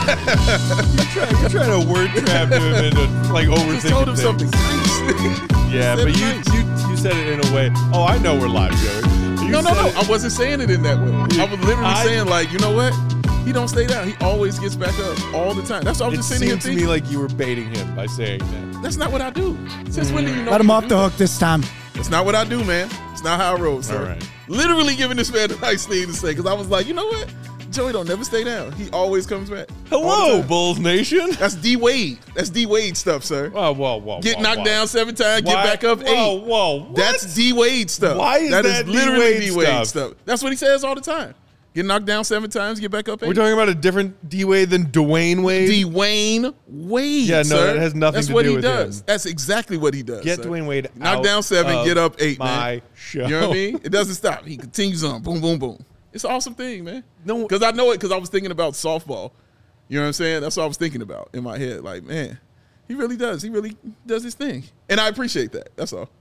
You're trying to word trap him into like overthinking Just told him things. something nice. Yeah, but you said it in a way. Oh, I know we're live, Joey. No. I wasn't saying it in that way. I was literally saying, like, you know what? He don't stay down. He always gets back up all the time. That's what I was just sitting here It seemed to thinking. me like you were baiting him by saying that. That's not what I do. Since when do you know? Let him me to off do the that? hook this time. That's not what I do, man. It's not how I roll, sir. All right. Literally giving this man a nice thing to say because I was like, you know what? Joey don't never stay down. He always comes back. All the Hello, time. Bulls Nation. That's D Wade. That's D Wade stuff, sir. Whoa. Get knocked down 7 times, get back up 8. Whoa. What? That's D Wade stuff. Why is that literally D D Wade Wade stuff? stuff. That's what he says all the time. Get knocked down 7 times, get back up 8. We're talking about a different D-Wade than Dwayne Wade. Dwayne Wade. Yeah, no, sir. that has nothing That's to what do he with does. him. That's exactly what he does. Get sir. Dwayne Wade Knock out down 7, of get up 8, my man. show. You know what I mean? It doesn't stop. He continues on. Boom, boom, boom. It's an awesome thing, man. No, because I know it because I was thinking about softball. You know what I'm saying? That's what I was thinking about in my head. Like, man, he really does. He really does his thing. And I appreciate that. That's all.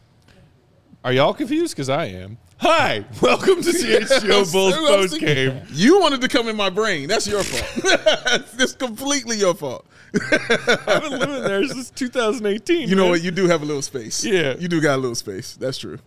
Are y'all confused? Because I am. Hi, welcome to CHGO Bulls post game. You wanted to come in my brain. That's your fault. It's completely your fault. I've been living there since 2018. You know man. what? You do have a little space. Yeah. You do got a little space. That's true.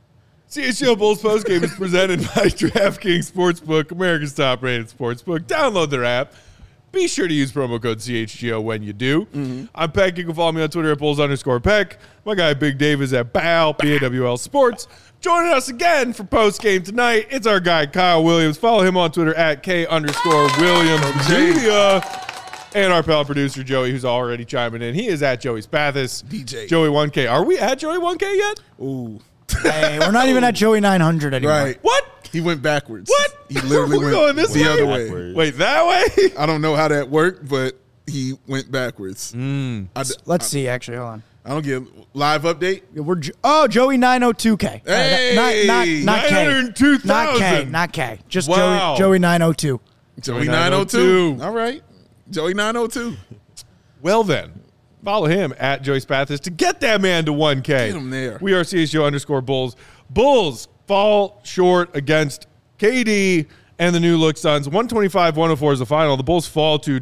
CHGO Bulls post game is presented by DraftKings Sportsbook, America's top-rated sportsbook. Download their app. Be sure to use promo code CHGO when you do. I'm Peck. You can follow me on Twitter at Bulls_Peck. My guy Big Dave is at BAWL Sports. Joining us again for post game tonight, it's our guy Kyle Williams. Follow him on Twitter at K_Williams Media. And our pal producer Joey, who's already chiming in. He is at Joey Spathis. DJ. Joey 1K. Are we at Joey 1K yet? Ooh. Hey, we're not even at Joey 900 anymore. Right. What? He went backwards. What? He literally We're went going this the way? other way. Wait, that way? I don't know how that worked, but he went backwards. Let's see, actually. Hold on. I don't get live update. Joey 902K. Hey! Not K. 902,000. Not K. Not K. Just Wow. Joey 902. Joey 902. 902. All right. Joey 902. Well then, follow him at Joey Spathis to get that man to 1K. Get him there. We are CHGO_Bulls. Bulls fall short against KD and the new look Suns. 125-104 is the final. The Bulls fall to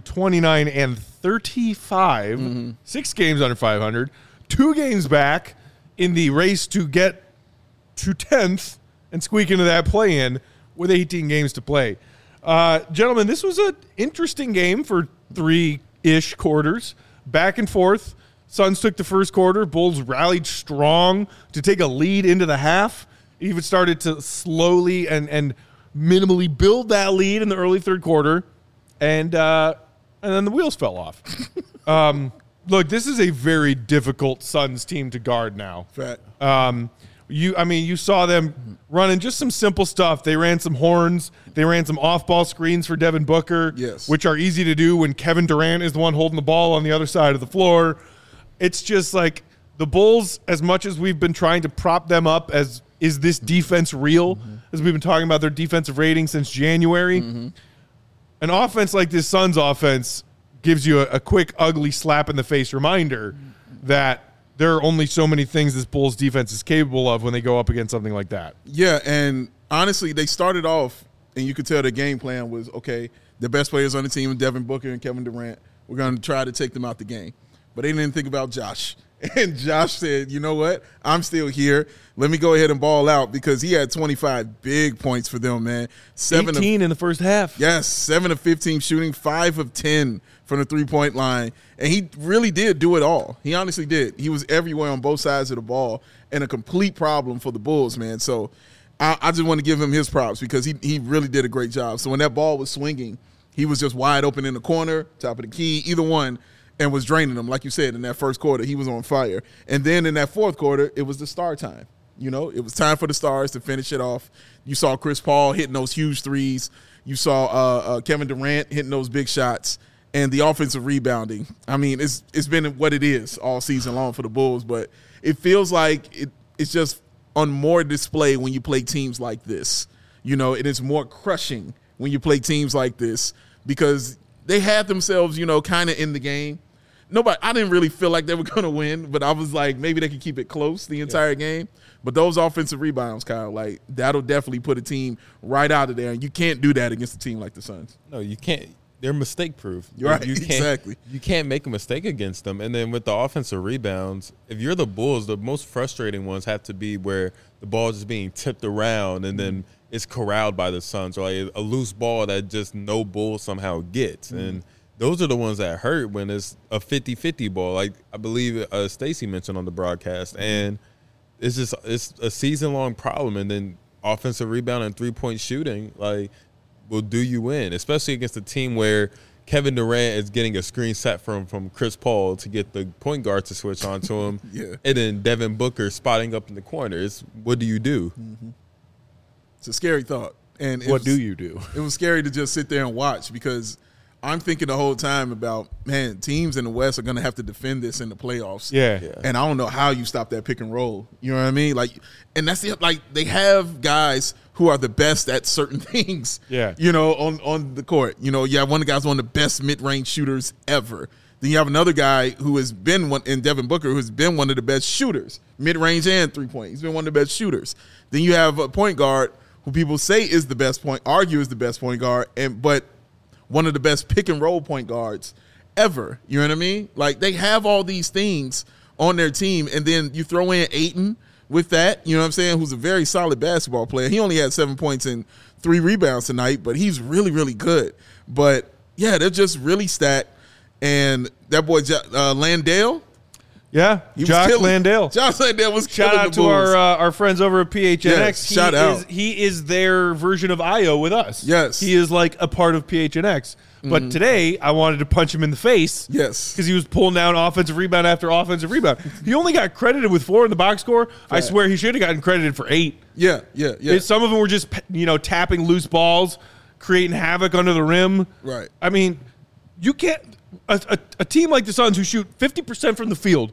29-35. 6 games under 500. 2 games back in the race to get to 10th and squeak into that play-in with 18 games to play. Gentlemen, this was an interesting game for 3-ish quarters. Back and forth. Suns took the first quarter. Bulls rallied strong to take a lead into the half. Even started to slowly and minimally build that lead in the early third quarter. And then the wheels fell off. Look, this is a very difficult Suns team to guard now. Fact. You saw them running just some simple stuff. They ran some horns. They ran some off-ball screens for Devin Booker, Yes. which are easy to do when Kevin Durant is the one holding the ball on the other side of the floor. It's just like the Bulls, as much as we've been trying to prop them up as is this defense real, as we've been talking about their defensive rating since January, an offense like this Suns offense gives you a quick, ugly slap-in-the-face reminder that there are only so many things this Bulls defense is capable of when they go up against something like that. Yeah, and honestly, they started off, and you could tell the game plan was, okay, the best players on the team, Devin Booker and Kevin Durant, we're going to try to take them out the game. But they didn't think about Josh. And Josh said, you know what? I'm still here. Let me go ahead and ball out because he had 25 big points for them, man. 18 in the first half. Yes, 7 of 15 shooting, 5 of 10 from the three-point line. And he really did do it all. He honestly did. He was everywhere on both sides of the ball and a complete problem for the Bulls, man. So I just want to give him his props because he really did a great job. So when that ball was swinging, he was just wide open in the corner, top of the key, either one, and was draining them. Like you said, in that first quarter, he was on fire. And then in that fourth quarter, it was the star time. You know, it was time for the stars to finish it off. You saw Chris Paul hitting those huge threes. You saw Kevin Durant hitting those big shots. And the offensive rebounding. I mean, it's been what it is all season long for the Bulls, but it feels like it's just on more display when you play teams like this. You know, it is more crushing when you play teams like this because they had themselves, you know, kind of in the game. I didn't really feel like they were going to win, but I was like, maybe they could keep it close the entire game. But those offensive rebounds, Kyle, like that'll definitely put a team right out of there. And you can't do that against a team like the Suns. No, you can't. they're mistake proof. You're right, You can't, exactly. You can't make a mistake against them. And then with the offensive rebounds, if you're the Bulls, the most frustrating ones have to be where the ball is just being tipped around and then it's corralled by the Suns, or like a loose ball that just no Bull somehow gets. And those are the ones that hurt when it's a 50-50 ball, like I believe Stacey mentioned on the broadcast. And it's a season-long problem. And then offensive rebound and three-point shooting, like, will do you in, especially against a team where Kevin Durant is getting a screen set from Chris Paul to get the point guard to switch on to him. Yeah. And then Devin Booker spotting up in the corner. What do you do? It's a scary thought. And What do you do? It was scary to just sit there and watch, because I'm thinking the whole time about, man, teams in the West are going to have to defend this in the playoffs. Yeah. And I don't know how you stop that pick and roll. You know what I mean? Like, and that's like they have guys who are the best at certain things. Yeah. You know, on the court. You know, you have one of the guys, one of the best mid-range shooters ever. Then you have another guy who has been in Devin Booker, who's been one of the best shooters, mid-range and three-point. He's been one of the best shooters. Then you have a point guard who people say is the best argue is the best point guard, but one of the best pick and roll point guards ever. You know what I mean? Like, they have all these things on their team, and then you throw in Ayton with that, you know what I'm saying, who's a very solid basketball player. He only had 7 points and 3 rebounds tonight, but he's really, really good. But, yeah, they're just really stacked. And that boy Landale, Yeah, he was Jock killing. Landale. Josh Landale was Shout killing out the to Bulls. our friends over at PHNX. Yes, shout out. He is their version of Io with us. Yes. He is like a part of PHNX. But today, I wanted to punch him in the face. Yes. Because he was pulling down offensive rebound after offensive rebound. He only got credited with 4 in the box score. I swear he should have gotten credited for 8. Yeah. Some of them were just, tapping loose balls, creating havoc under the rim. Right. I mean, you can't a team like the Suns who shoot 50% from the field,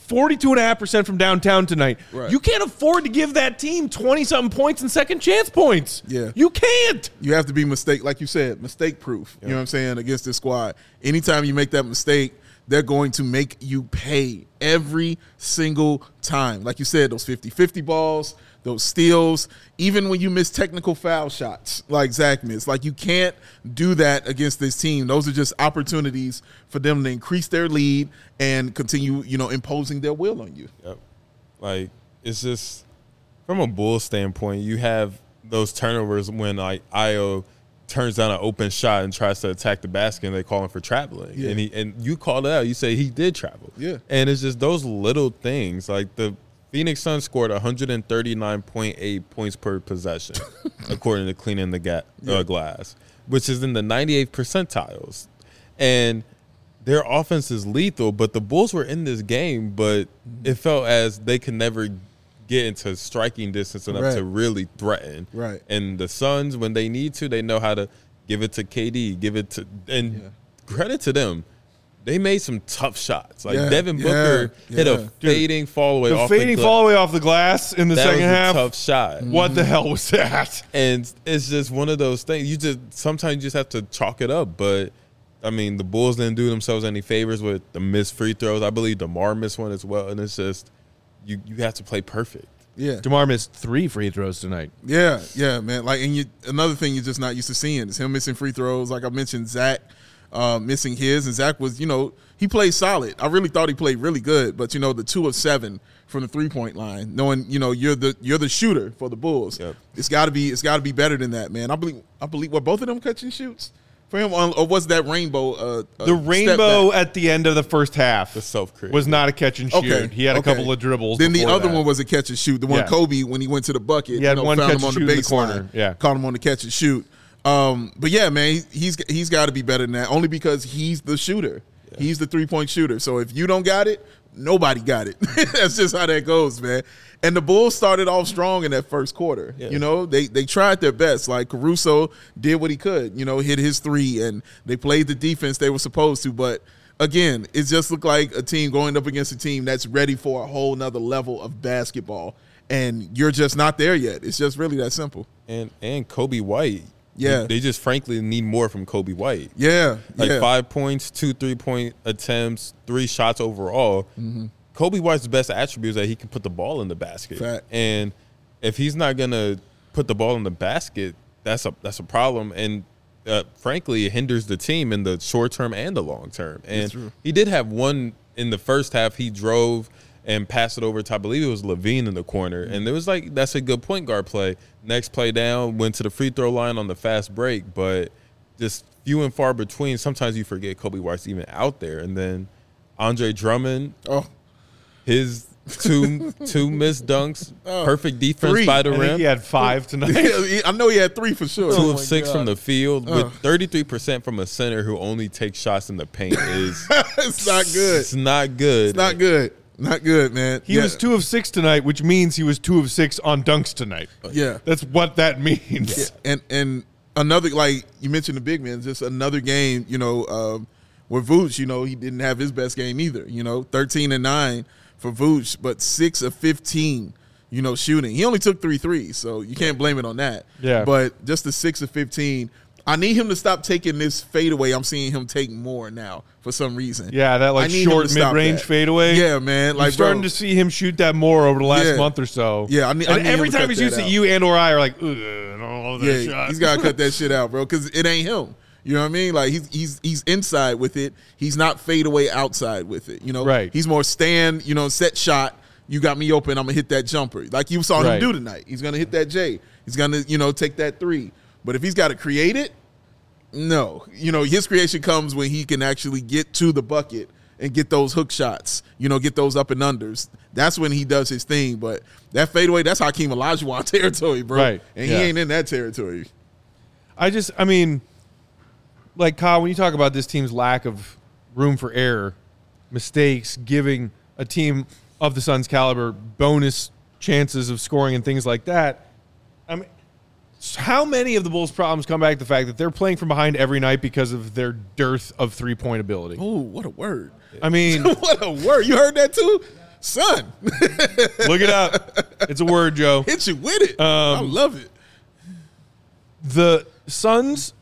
42.5% from downtown tonight. Right. You can't afford to give that team 20-something points and second chance points. Yeah. You can't. You have to be like you said, mistake proof. You know what I'm saying, against this squad. Anytime you make that mistake, they're going to make you pay every single time. Like you said, those 50-50 balls, those steals, even when you miss technical foul shots like Zach missed. Like, you can't do that against this team. Those are just opportunities for them to increase their lead and continue, imposing their will on you. Yep. Like, it's just, from a Bulls standpoint, you have those turnovers when, like, Io turns down an open shot and tries to attack the basket, and they call him for traveling. Yeah. And you called it out. You say he did travel. Yeah. And it's just those little things. Like, the Phoenix Suns scored 139.8 points per possession, according to Cleaning the Glass, which is in the 98th percentiles. And their offense is lethal, but the Bulls were in this game, but it felt as they could never get into striking distance enough Right. to really threaten. Right. And the Suns, when they need to, they know how to give it to KD, credit to them. They made some tough shots. Like, Devin Booker hit a fading fall away off Fading the fall away off the glass in the that second was half. a tough shot. What the hell was that? And it's just one of those things. Sometimes you just have to chalk it up. But I mean, the Bulls didn't do themselves any favors with the missed free throws. I believe DeMar missed one as well. And it's just you have to play perfect. Yeah. DeMar missed 3 free throws tonight. Yeah, man. Like, and another thing you're just not used to seeing is him missing free throws. Like I mentioned, Zach missing his, and Zach was, he played solid. I really thought he played really good, but the 2 of 7 from the 3-point line, knowing you're the shooter for the Bulls. Yep. It's got to be better than that, man. I believe were both of them catch and shoots for him, or was that rainbow? The rainbow at the end of the first half The self-created. was not a catch and shoot. Okay, He had a okay. couple of dribbles. Then the before other that. one was a catch and shoot. The one Yeah. Kobe, when he went to the bucket, He had one found catch him on and the shoot in the baseline. corner. Yeah. Caught him on the catch and shoot. But yeah, man, he's got to be better than that. Only because he's the shooter. Yeah. He's the 3-point shooter. So if you don't got it, nobody got it. That's just how that goes, man. And the Bulls started off strong in that first quarter. Yeah. They tried their best. Like, Caruso did what he could. Hit his 3, and they played the defense they were supposed to. But again, it just looked like a team going up against a team that's ready for a whole nother level of basketball. And you're just not there yet. It's just really that simple. And Kobe White. Yeah. They just frankly need more from Kobe White. Yeah. Like, yeah. 5 points, 2 3-point attempts, 3 shots overall. Mm-hmm. Kobe White's best attribute is that he can put the ball in the basket. Fact. And if he's not going to put the ball in the basket, that's a problem. And frankly, it hinders the team in the short term and the long term. And true. he did have one in the first half. He drove and passed it over to, I believe it was Levine in the corner. And it was like, that's a good point guard play. Next play down, went to the free throw line on the fast break, but just few and far between. Sometimes you forget Kobe White's even out there. And then Andre Drummond, his two missed dunks, perfect defense 3. by the I think rim. he had 5 tonight. I know he had 3 for sure. 2 of 6 from the field with 33% from a center who only takes shots in the paint is It's not good. it's not good. It's not good. Not good, man. He was 2 of 6 tonight, which means he was 2 of 6 on dunks tonight. Yeah. That's what that means. And another, like you mentioned, the big man, just another game, where Vooch, he didn't have his best game either. 13 and 9 for Vooch, but 6 of 15, shooting. He only took 3 threes, so you can't blame it on that. Yeah. But just the 6 of 15. I need him to stop taking this fadeaway. I'm seeing him take more now for some reason. Yeah, that I need him short to stop mid-range that. fadeaway. Yeah, man. Like, starting to see him shoot that more over the last month or so. Yeah, I need every him to time cut he shoots that it, out. you and or I are like, ugh, I don't love that shot. He's got to cut that shit out, bro, because it ain't him. You know what I mean? Like, he's inside with it. He's not fade away outside with it. Right. He's more stand, set shot. You got me open. I'm going to hit that jumper. Like you saw him do tonight. He's going to hit that J. He's going to, take that 3. But if he's got to create it, no. His creation comes when he can actually get to the bucket and get those hook shots, get those up and unders. That's when he does his thing. But that fadeaway, that's Hakeem Olajuwon territory, bro. Right. And he ain't in that territory. I mean, like, Kyle, when you talk about this team's lack of room for error, mistakes, giving a team of the Suns' caliber bonus chances of scoring and things like that, I mean, how many of the Bulls' problems come back to the fact that they're playing from behind every night because of their dearth of three-point ability? Oh, what a word. I mean, What a word. You heard that too? Son. look it up. It's a word, Joe. Hit you with it. I love it. The Suns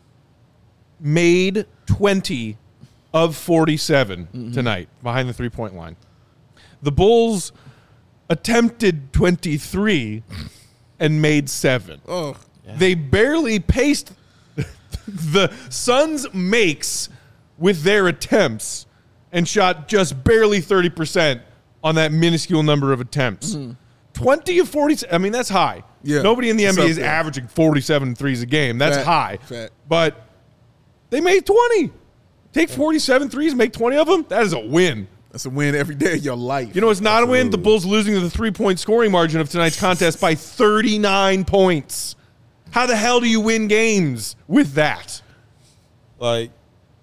made 20 of 47 tonight behind the three-point line. The Bulls attempted 23 and made 7. Oh, They barely paced the Suns' makes with their attempts and shot just barely 30% on that minuscule number of attempts. 20 of 40. I mean, that's high. Yeah. Nobody in the It's NBA up is there. averaging 47 threes a game. That's Fact. high. Fact. But they made 20. Take 47 threes, make 20 of them. That is a win. that's a win every day of your life. You know what's not a win? The Bulls losing to the three-point scoring margin of tonight's contest by 39 points. How the hell do you win games with that? Like,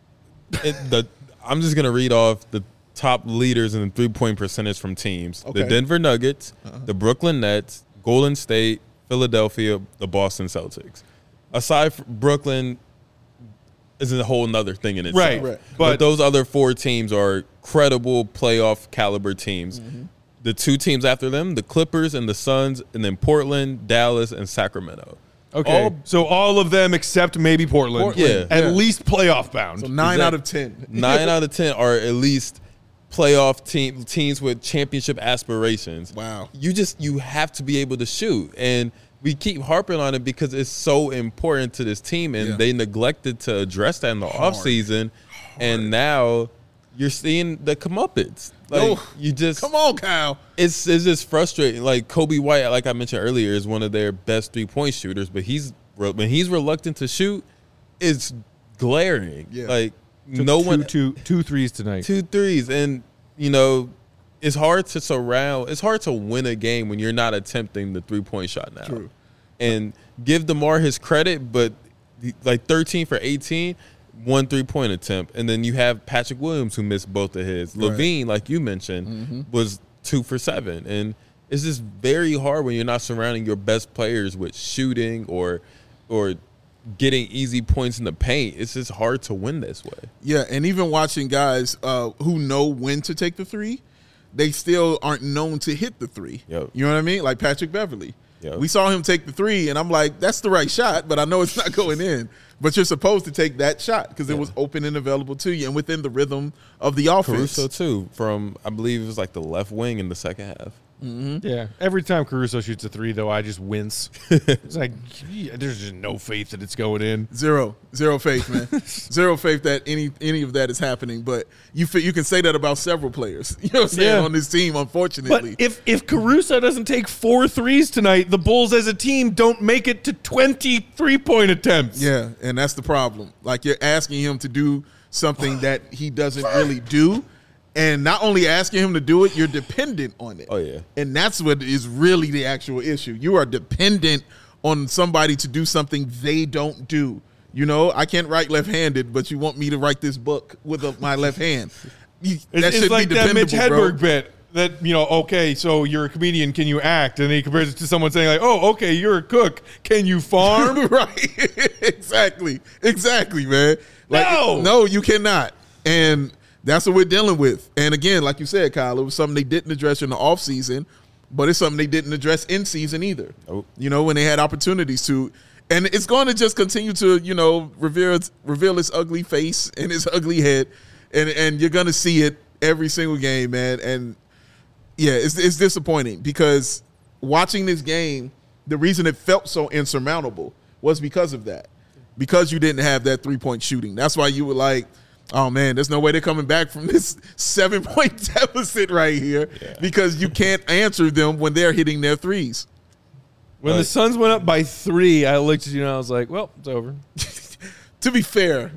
I'm just going to read off the top leaders in the three-point percentage from teams. Okay. The Denver Nuggets, the Brooklyn Nets, Golden State, Philadelphia, the Boston Celtics. Aside from Brooklyn is a whole nother thing in itself. Right. Right. But those other 4 teams are credible playoff caliber teams. The 2 teams after them, the Clippers and the Suns, and then Portland, Dallas, and Sacramento. Okay. So all of them except maybe Portland. Yeah. At least playoff bound. So 9 Exactly. out of 10. 9 out of 10 are at least playoff teams with championship aspirations. Wow. You have to be able to shoot. And we keep harping on it because it's so important to this team, and they neglected to address that in the offseason. And now you're seeing the comeuppance. Like, you just Come on, Kyle. it's just frustrating. Like, Kobe White, like I mentioned earlier, is one of their best 3-point shooters, but when he's reluctant to shoot, it's glaring. Yeah. Like, Took no one two threes tonight. 2 threes, and it's hard to win a game when you're not attempting the 3-point shot now. True. And give DeMar his credit, but like 13 for 18, 1 3-point attempt, and then you have Patrick Williams who missed both of his. Right. Levine, like you mentioned, was 2 for 7, and it's just very hard when you're not surrounding your best players with shooting or getting easy points in the paint. It's just hard to win this way. Yeah, and even watching guys who know when to take the 3, they still aren't known to hit the 3. Yep. You know what I mean? Like Patrick Beverly. Yep. We saw him take the 3, and I'm like, that's the right shot, but I know it's not going in. But you're supposed to take that shot because it was open and available to you and within the rhythm of the offense. Caruso too, from I believe it was like the left wing in the second half. Yeah. Every time Caruso shoots a three, though, I just wince. It's like, there's just no faith that it's going in. Zero faith, man. Zero faith that any of that is happening. But you can say that about several players. You know what I'm saying, Yeah. on this team, unfortunately. But if Caruso doesn't take 4 threes tonight, the Bulls as a team don't make it to 20 3-point attempts. Yeah, and that's the problem. Like, you're asking him to do something that he doesn't really do. And not only asking him to do it, you're dependent on it. Oh, yeah. And that's what is really the actual issue. You are dependent on somebody to do something they don't do. You know, I can't write left-handed, but you want me to write this book with my left hand. It's like be that Mitch dependable, Hedberg bit that, okay, so you're a comedian, can you act? And he compares it to someone saying like, oh, okay, you're a cook, can you farm? Right. Exactly, man. No, you cannot. And that's what we're dealing with. And again, like you said, Kyle, it was something they didn't address in the offseason, but it's something they didn't address in season either. Oh. When they had opportunities to. And it's going to just continue to, reveal its ugly face and its ugly head. And you're going to see it every single game, man. And, yeah, it's disappointing because watching this game, the reason it felt so insurmountable was because of that. Because you didn't have that three-point shooting. That's why you were like, oh, man, there's no way they're coming back from this 7-point deficit right here because you can't answer them when they're hitting their threes. When the Suns went up by 3, I looked at you and I was like, well, it's over. To be fair.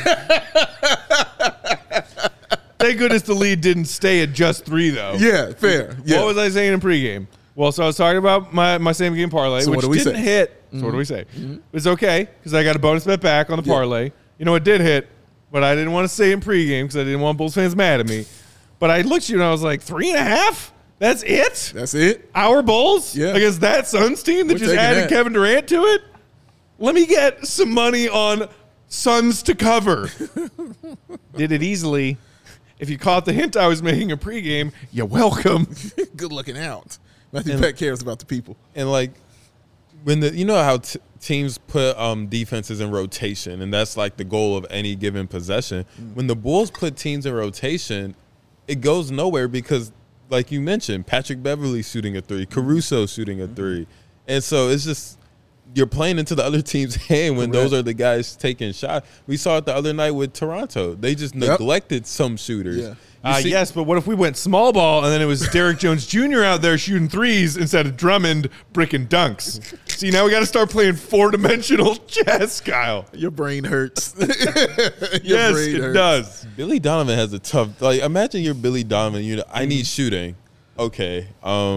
Thank goodness the lead didn't stay at just 3, though. Yeah, fair. Yeah. What was I saying in pregame? Well, so I was talking about my same-game parlay, So which what do we didn't say? hit. So what do we say? It's okay because I got a bonus bet back on the parlay. You know, it did hit, but I didn't want to say in pregame because I didn't want Bulls fans mad at me. But I looked at you and I was like, 3.5? That's it? That's it? Our Bulls? Yeah. Against that Suns team that We're just taking added that. Kevin Durant to it? Let me get some money on Suns to cover. Did it easily. If you caught the hint I was making in pregame, you're welcome. Good looking out. Matthew Peck cares about the people. And like when how teams put defenses in rotation, and that's like the goal of any given possession. When the Bulls put teams in rotation, it goes nowhere because, like you mentioned, Patrick Beverley shooting a 3, Caruso shooting a 3, and so it's just you're playing into the other team's hand when those are the guys taking shots. We saw it the other night with Toronto; they just neglected some shooters. Yeah. Yes, but what if we went small ball and then it was Derrick Jones Jr. out there shooting threes instead of Drummond bricking dunks? See, now we got to start playing 4-dimensional chess, Kyle. Your brain hurts. Yes, it does. Billy Donovan has a tough. Like, imagine you're Billy Donovan. I need shooting. Okay.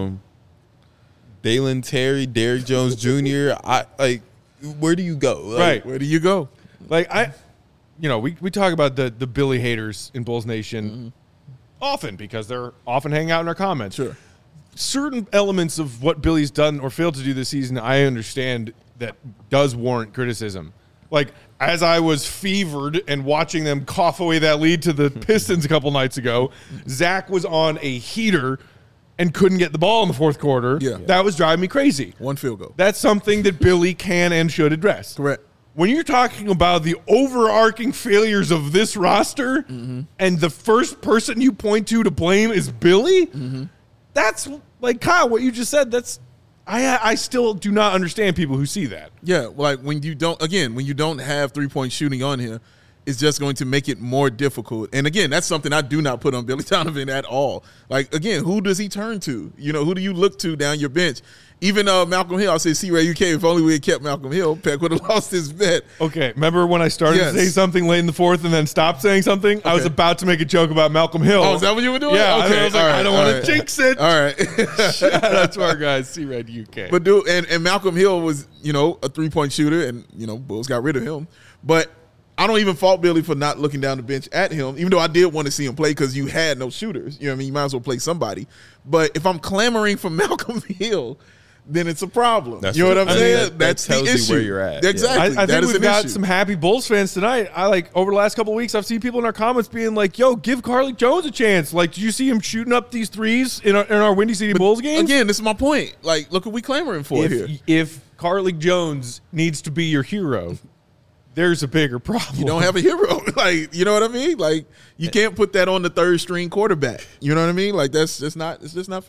Dalen Terry, Derrick Jones Jr. Where do you go? Like, Right. Where do you go? Like, we talk about the Billy haters in Bulls Nation often because they're often hanging out in our comments. Sure. Certain elements of what Billy's done or failed to do this season, I understand that does warrant criticism. Like, as I was fevered and watching them cough away that lead to the Pistons a couple nights ago, Zach was on a heater and couldn't get the ball in the fourth quarter. Yeah. That was driving me crazy. One field goal. That's something that Billy can and should address. Correct. When you're talking about the overarching failures of this roster and the first person you point to blame is Billy, that's like, Kyle, what you just said, that's I still do not understand people who see that. Yeah, like when you don't have 3-point shooting on here, it's just going to make it more difficult. And again, that's something I do not put on Billy Donovan at all. Like, again, who does he turn to? Who do you look to down your bench? Even Malcolm Hill, I say, C-Ray, UK, if only we had kept Malcolm Hill, Peck would have lost his bet. Okay, remember when I started to say something late in the fourth and then stopped saying something? Okay. I was about to make a joke about Malcolm Hill. Oh, is that what you were doing? Yeah, okay. I was like, I don't want to jinx it. All right. Shout out to our guys, C-Red UK. But dude, and Malcolm Hill was, a 3-point shooter, and, Bulls got rid of him. But I don't even fault Billy for not looking down the bench at him, even though I did want to see him play because you had no shooters. You know what I mean? You might as well play somebody. But if I'm clamoring for Malcolm Hill, then it's a problem. That's you know what I'm saying? That That's tells the you issue. where you're at. Exactly. I That think is we've an got issue. some happy Bulls fans tonight. Over the last couple of weeks, I've seen people in our comments being like, yo, give Carlik Jones a chance. Like, did you see him shooting up these threes in our Windy City Bulls games? Again, this is my point. Like, look what we clamoring for here. If Carlik Jones needs to be your hero, there's a bigger problem. You don't have a hero. Like, you know what I mean? Like, you can't put that on the third string quarterback. You know what I mean? Like, it's just not fair.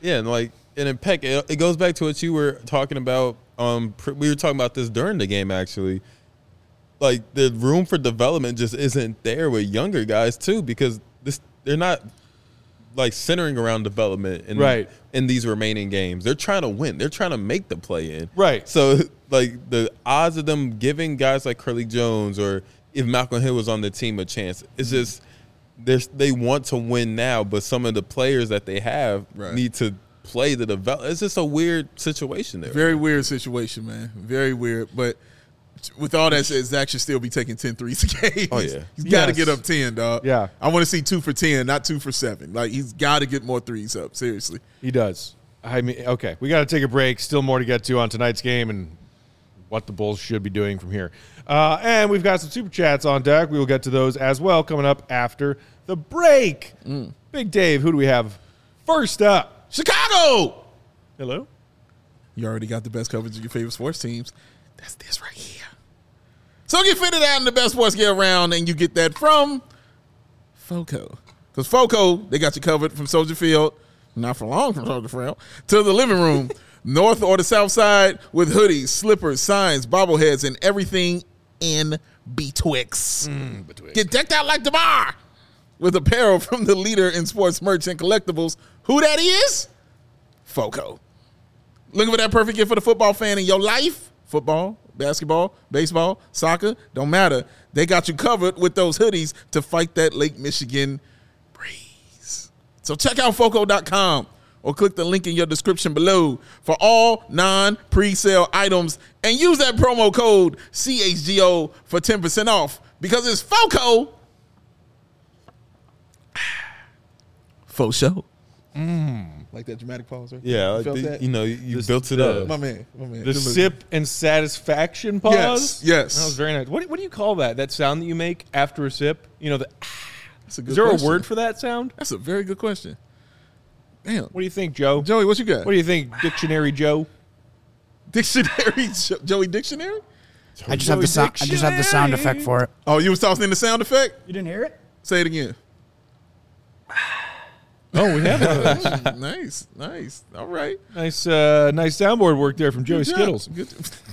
Yeah, and in Peck, it goes back to what you were talking about. We were talking about this during the game, actually. Like, the room for development just isn't there with younger guys, too, because they're not, like, centering around development in these remaining games. They're trying to win. They're trying to make the play-in. Right. So, like, the odds of them giving guys like Curly Jones or if Malcolm Hill was on the team a chance, it's just they want to win now, but some of the players that they have need to play the develop. It's just a weird situation there. Very weird situation, man. Very weird. But with all that said, Zach should still be taking 10 threes a game. Oh, yeah. He's got to get up 10, dog. Yeah. I want to see 2 for 10, not 2 for 7. Like, he's got to get more threes up, seriously. He does. I mean, okay, we got to take a break. Still more to get to on tonight's game and what the Bulls should be doing from here. And we've got some super chats on deck. We will get to those as well coming up after the break. Big Dave, who do we have first up? Chicago! Hello? You already got the best coverage of your favorite sports teams. That's this right here. So get fitted out in the best sports gear around, and you get that from FOCO. Because FOCO, they got you covered from Soldier Field, not for long from Soldier Field, to the living room, north or the south side, with hoodies, slippers, signs, bobbleheads, and everything in betwixt. Get decked out like DeMar with apparel from the leader in sports merch and collectibles. Who that is? FOCO. Looking for that perfect gift for the football fan in your life? Football, basketball, baseball, soccer, don't matter. They got you covered with those hoodies to fight that Lake Michigan breeze. So check out FOCO.com or click the link in your description below for all non-pre-sale items and use that promo code CHGO for 10% off because it's FOCO. Faux show. Like that dramatic pause, right? Yeah, You felt that? you built it up. My man. The sip and satisfaction pause? Yes. That was very nice. What do you call that? That sound that you make after a sip? You know, That's a good is there question. a word for that sound? That's a very good question. Damn. What do you think, Joe? Joey, what you got? What do you think, Dictionary Joe? Dictionary? Joey Dictionary? I just have the sound. I just have the sound effect for it. Oh, you was tossing in the sound effect? You didn't hear it? Say it again. Oh, we have one. Nice. All right. Nice soundboard work there from Joey Good job. Skittles. Good.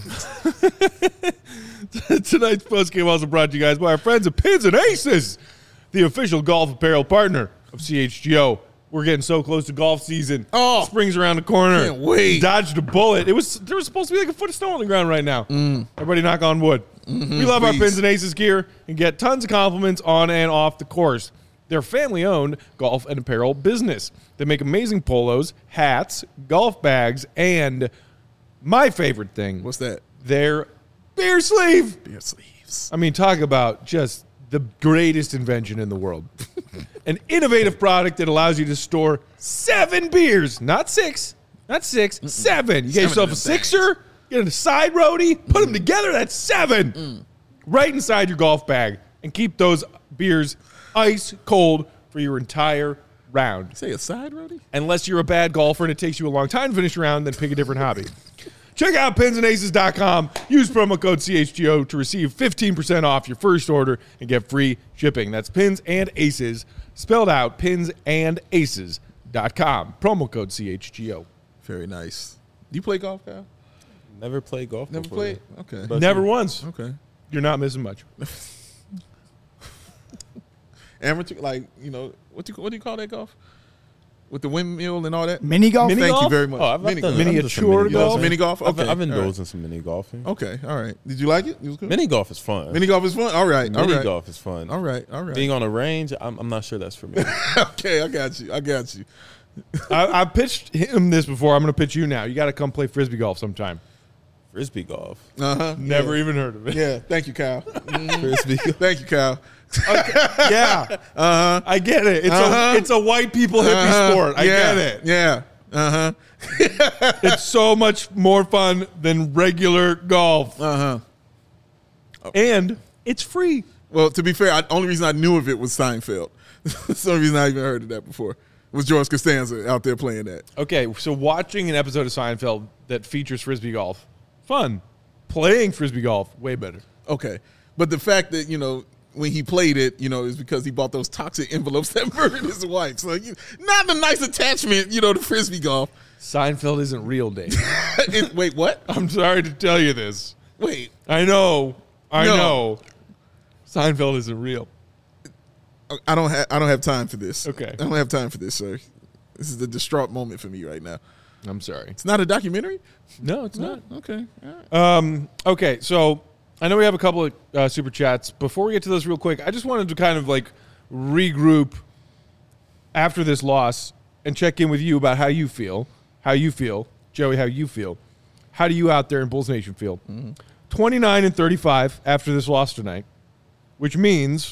Tonight's postgame also brought to you guys by our friends at Pins and Aces, the official golf apparel partner of CHGO. We're getting so close to golf season. Oh. Spring's around the corner. Can't wait. Dodged a bullet. There was supposed to be like a foot of snow on the ground right now. Everybody knock on wood. We love our please. Pins and Aces gear and get tons of compliments on and off the course. They're family-owned golf and apparel business. They make amazing polos, hats, golf bags, and my favorite thing, What's that? their beer sleeve. Beer sleeves. I mean, talk about just the greatest invention in the world. An innovative product that allows you to store 7 beers, not 6, 7. You get yourself a of them sixer, get a side roadie, put them together, that's 7. Right inside your golf bag, and keep those beers ice cold for your entire round. Say a side roadie? Unless you're a bad golfer and it takes you a long time to finish a round, then pick a different hobby. Check out pinsandaces.com. Use promo code CHGO to receive 15% off your first order and get free shipping. That's Pins and Aces, spelled out pinsandaces.com. Promo code CHGO. Very nice. Do you play golf, Kyle? Never played golf Never before. played? Okay. But- Never once. Okay. You're not missing much. Amateur, like, what do you call that golf? With the windmill and all that? Mini golf? Mini Thank golf? you very much. Oh, I've done Miniature some golf? Mini golf? Okay. I've all indulged in some mini golfing. right. Okay, all right. Did you like it? It was good? Mini golf is fun. Mini golf is fun? All right, all Mini right. golf is fun. All right. Being on a range, I'm not sure that's for me. Okay, I got you. I pitched him this before. I'm going to pitch you now. You got to come play Frisbee golf sometime. Frisbee golf. Uh-huh. Never even heard of it. Yeah, thank you, Kyle. Frisbee golf. Thank you, Kyle. Yeah. I get it. It's a white people hippie sport. I yeah, get it. Yeah. Uh-huh. It's so much more fun than regular golf. Uh-huh. And it's free. Well, to be fair, the only reason I knew of it was Seinfeld. That's the only reason I even heard of that before. Was George Costanza out there playing that. Okay, so watching an episode of Seinfeld that features Frisbee golf, fun. Playing Frisbee golf, way better. Okay. But the fact that, when he played it, is because he bought those toxic envelopes that murdered his wife. So not a nice attachment, to Frisbee golf. Seinfeld isn't real, Dave. Wait, what? I'm sorry to tell you this. Wait. I know. No. Seinfeld isn't real. I don't have time for this. Okay. I don't have time for this, sir. This is the distraught moment for me right now. I'm sorry. It's not a documentary? No, it's not. Okay. All right. Okay, so I know we have a couple of super chats. Before we get to those real quick, I just wanted to kind of regroup after this loss and check in with you about how you feel. Joey, how you feel. How do you out there in Bulls Nation feel? 29-35 after this loss tonight, which means,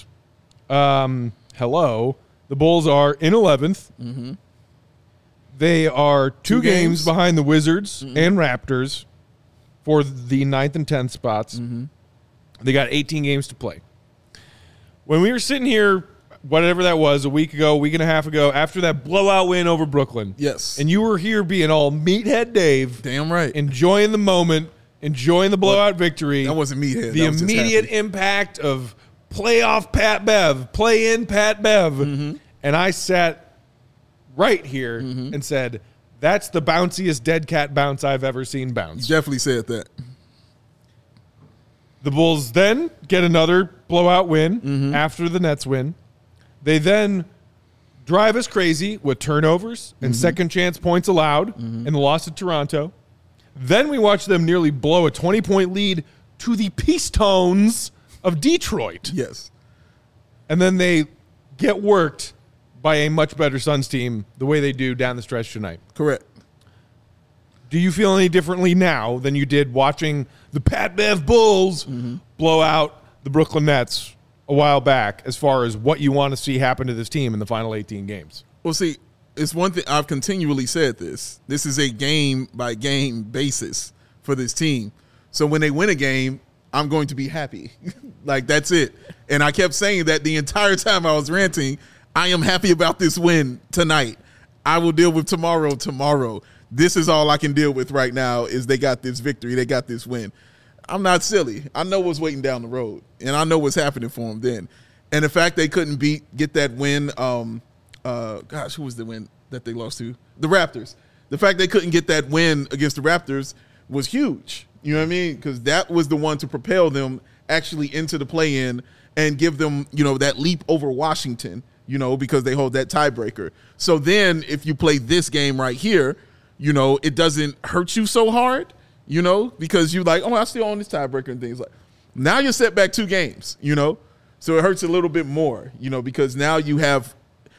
the Bulls are in 11th. Mm-hmm. They are two games behind the Wizards and Raptors for the 9th and 10th spots. Mm-hmm. They got 18 games to play. When we were sitting here, whatever that was, a week and a half ago, after that blowout win over Brooklyn. Yes. And you were here being all meathead Dave. Damn right. Enjoying the moment, enjoying the blowout victory. That wasn't meathead. The immediate impact of playoff Pat Bev, play-in Pat Bev. Mm-hmm. And I sat right here and said, that's the bounciest dead cat bounce I've ever seen bounce. You definitely said that. The Bulls then get another blowout win after the Nets win. They then drive us crazy with turnovers and second chance points allowed in the loss to Toronto. Then we watch them nearly blow a 20-point lead to the Pistons of Detroit. Yes. And then they get worked by a much better Suns team the way they do down the stretch tonight. Correct. Do you feel any differently now than you did watching the Pat Bev Bulls blow out the Brooklyn Nets a while back as far as what you want to see happen to this team in the final 18 games? Well, see, it's one thing I've continually said this. This is a game-by-game basis for this team. So when they win a game, I'm going to be happy. That's it. And I kept saying that the entire time I was ranting. I am happy about this win tonight. I will deal with tomorrow. This is all I can deal with right now is they got this victory. They got this win. I'm not silly. I know what's waiting down the road, and I know what's happening for them then. And the fact they couldn't get that win, who was the win that they lost to? The Raptors. The fact they couldn't get that win against the Raptors was huge. You know what I mean? Because that was the one to propel them actually into the play-in and give them, that leap over Washington, because they hold that tiebreaker. So then if you play this game right here, it doesn't hurt you so hard, because you're like, I still own this tiebreaker and things like now you're set back 2 games, so it hurts a little bit more, because now you have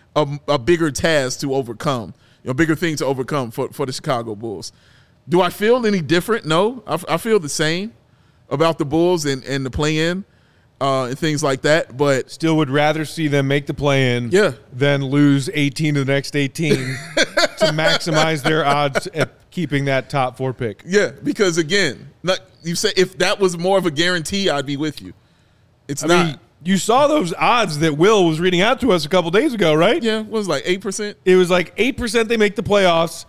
a bigger task to overcome, a bigger thing to overcome for the Chicago Bulls. Do I feel any different? No, I feel the same about the Bulls and the play-in and things like that, but still would rather see them make the play-in than lose 18 to the next 18 to maximize their odds at keeping that top 4 pick. Yeah, because again, like you said, if that was more of a guarantee, I'd be with you. It's not. I mean, you saw those odds that Will was reading out to us a couple days ago, right? Yeah, it was like 8%. It was like 8% they make the playoffs,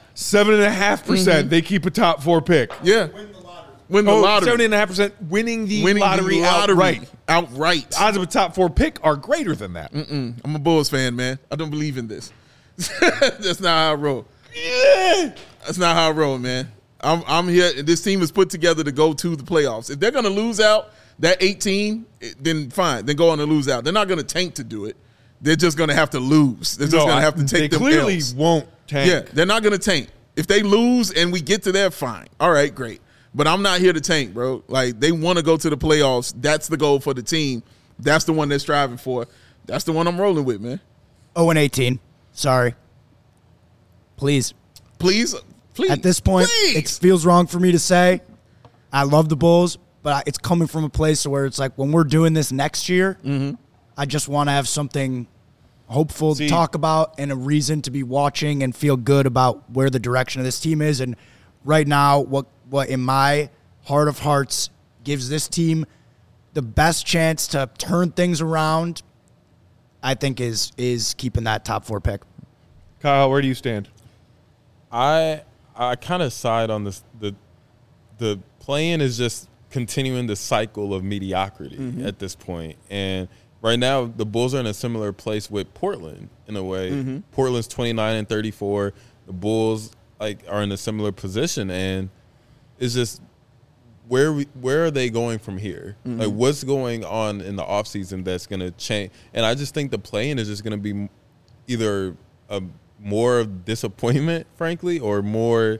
7.5% they keep a top 4 pick. Yeah. Win the lottery. 7.5% winning the lottery outright. Outright. The odds of a top 4 pick are greater than that. I'm a Bulls fan, man. I don't believe in this. That's not how I roll. Yeah. That's not how I roll, man. I'm here. This team is put together to go to the playoffs. If they're going to lose out that 18, then fine. Then go on and lose out. They're not going to tank to do it. They're just going to have to lose. They're just going to have to take them They clearly L's. won't tank. Yeah, they're not going to tank. If they lose and we get to there, fine. All right, great. But I'm not here to tank, bro. Like, they want to go to the playoffs. That's the goal for the team. That's the one they're striving for. That's the one I'm rolling with, man. 0-18. Sorry. Please. Please. At this point, please. It feels wrong for me to say. I love the Bulls, but it's coming from a place where it's like when we're doing this next year, I just want to have something hopeful to talk about and a reason to be watching and feel good about where the direction of this team is. And right now, what in my heart of hearts gives this team the best chance to turn things around, I think is keeping that top 4 pick. Kyle, where do you stand? I kind of side on this. The play-in is just continuing the cycle of mediocrity at this point. And right now the Bulls are in a similar place with Portland in a way. Portland's 29-34. The Bulls are in a similar position, and it's just where are they going from here? Like, what's going on in the offseason that's going to change? And I just think the play-in is just going to be either more of disappointment, frankly, or more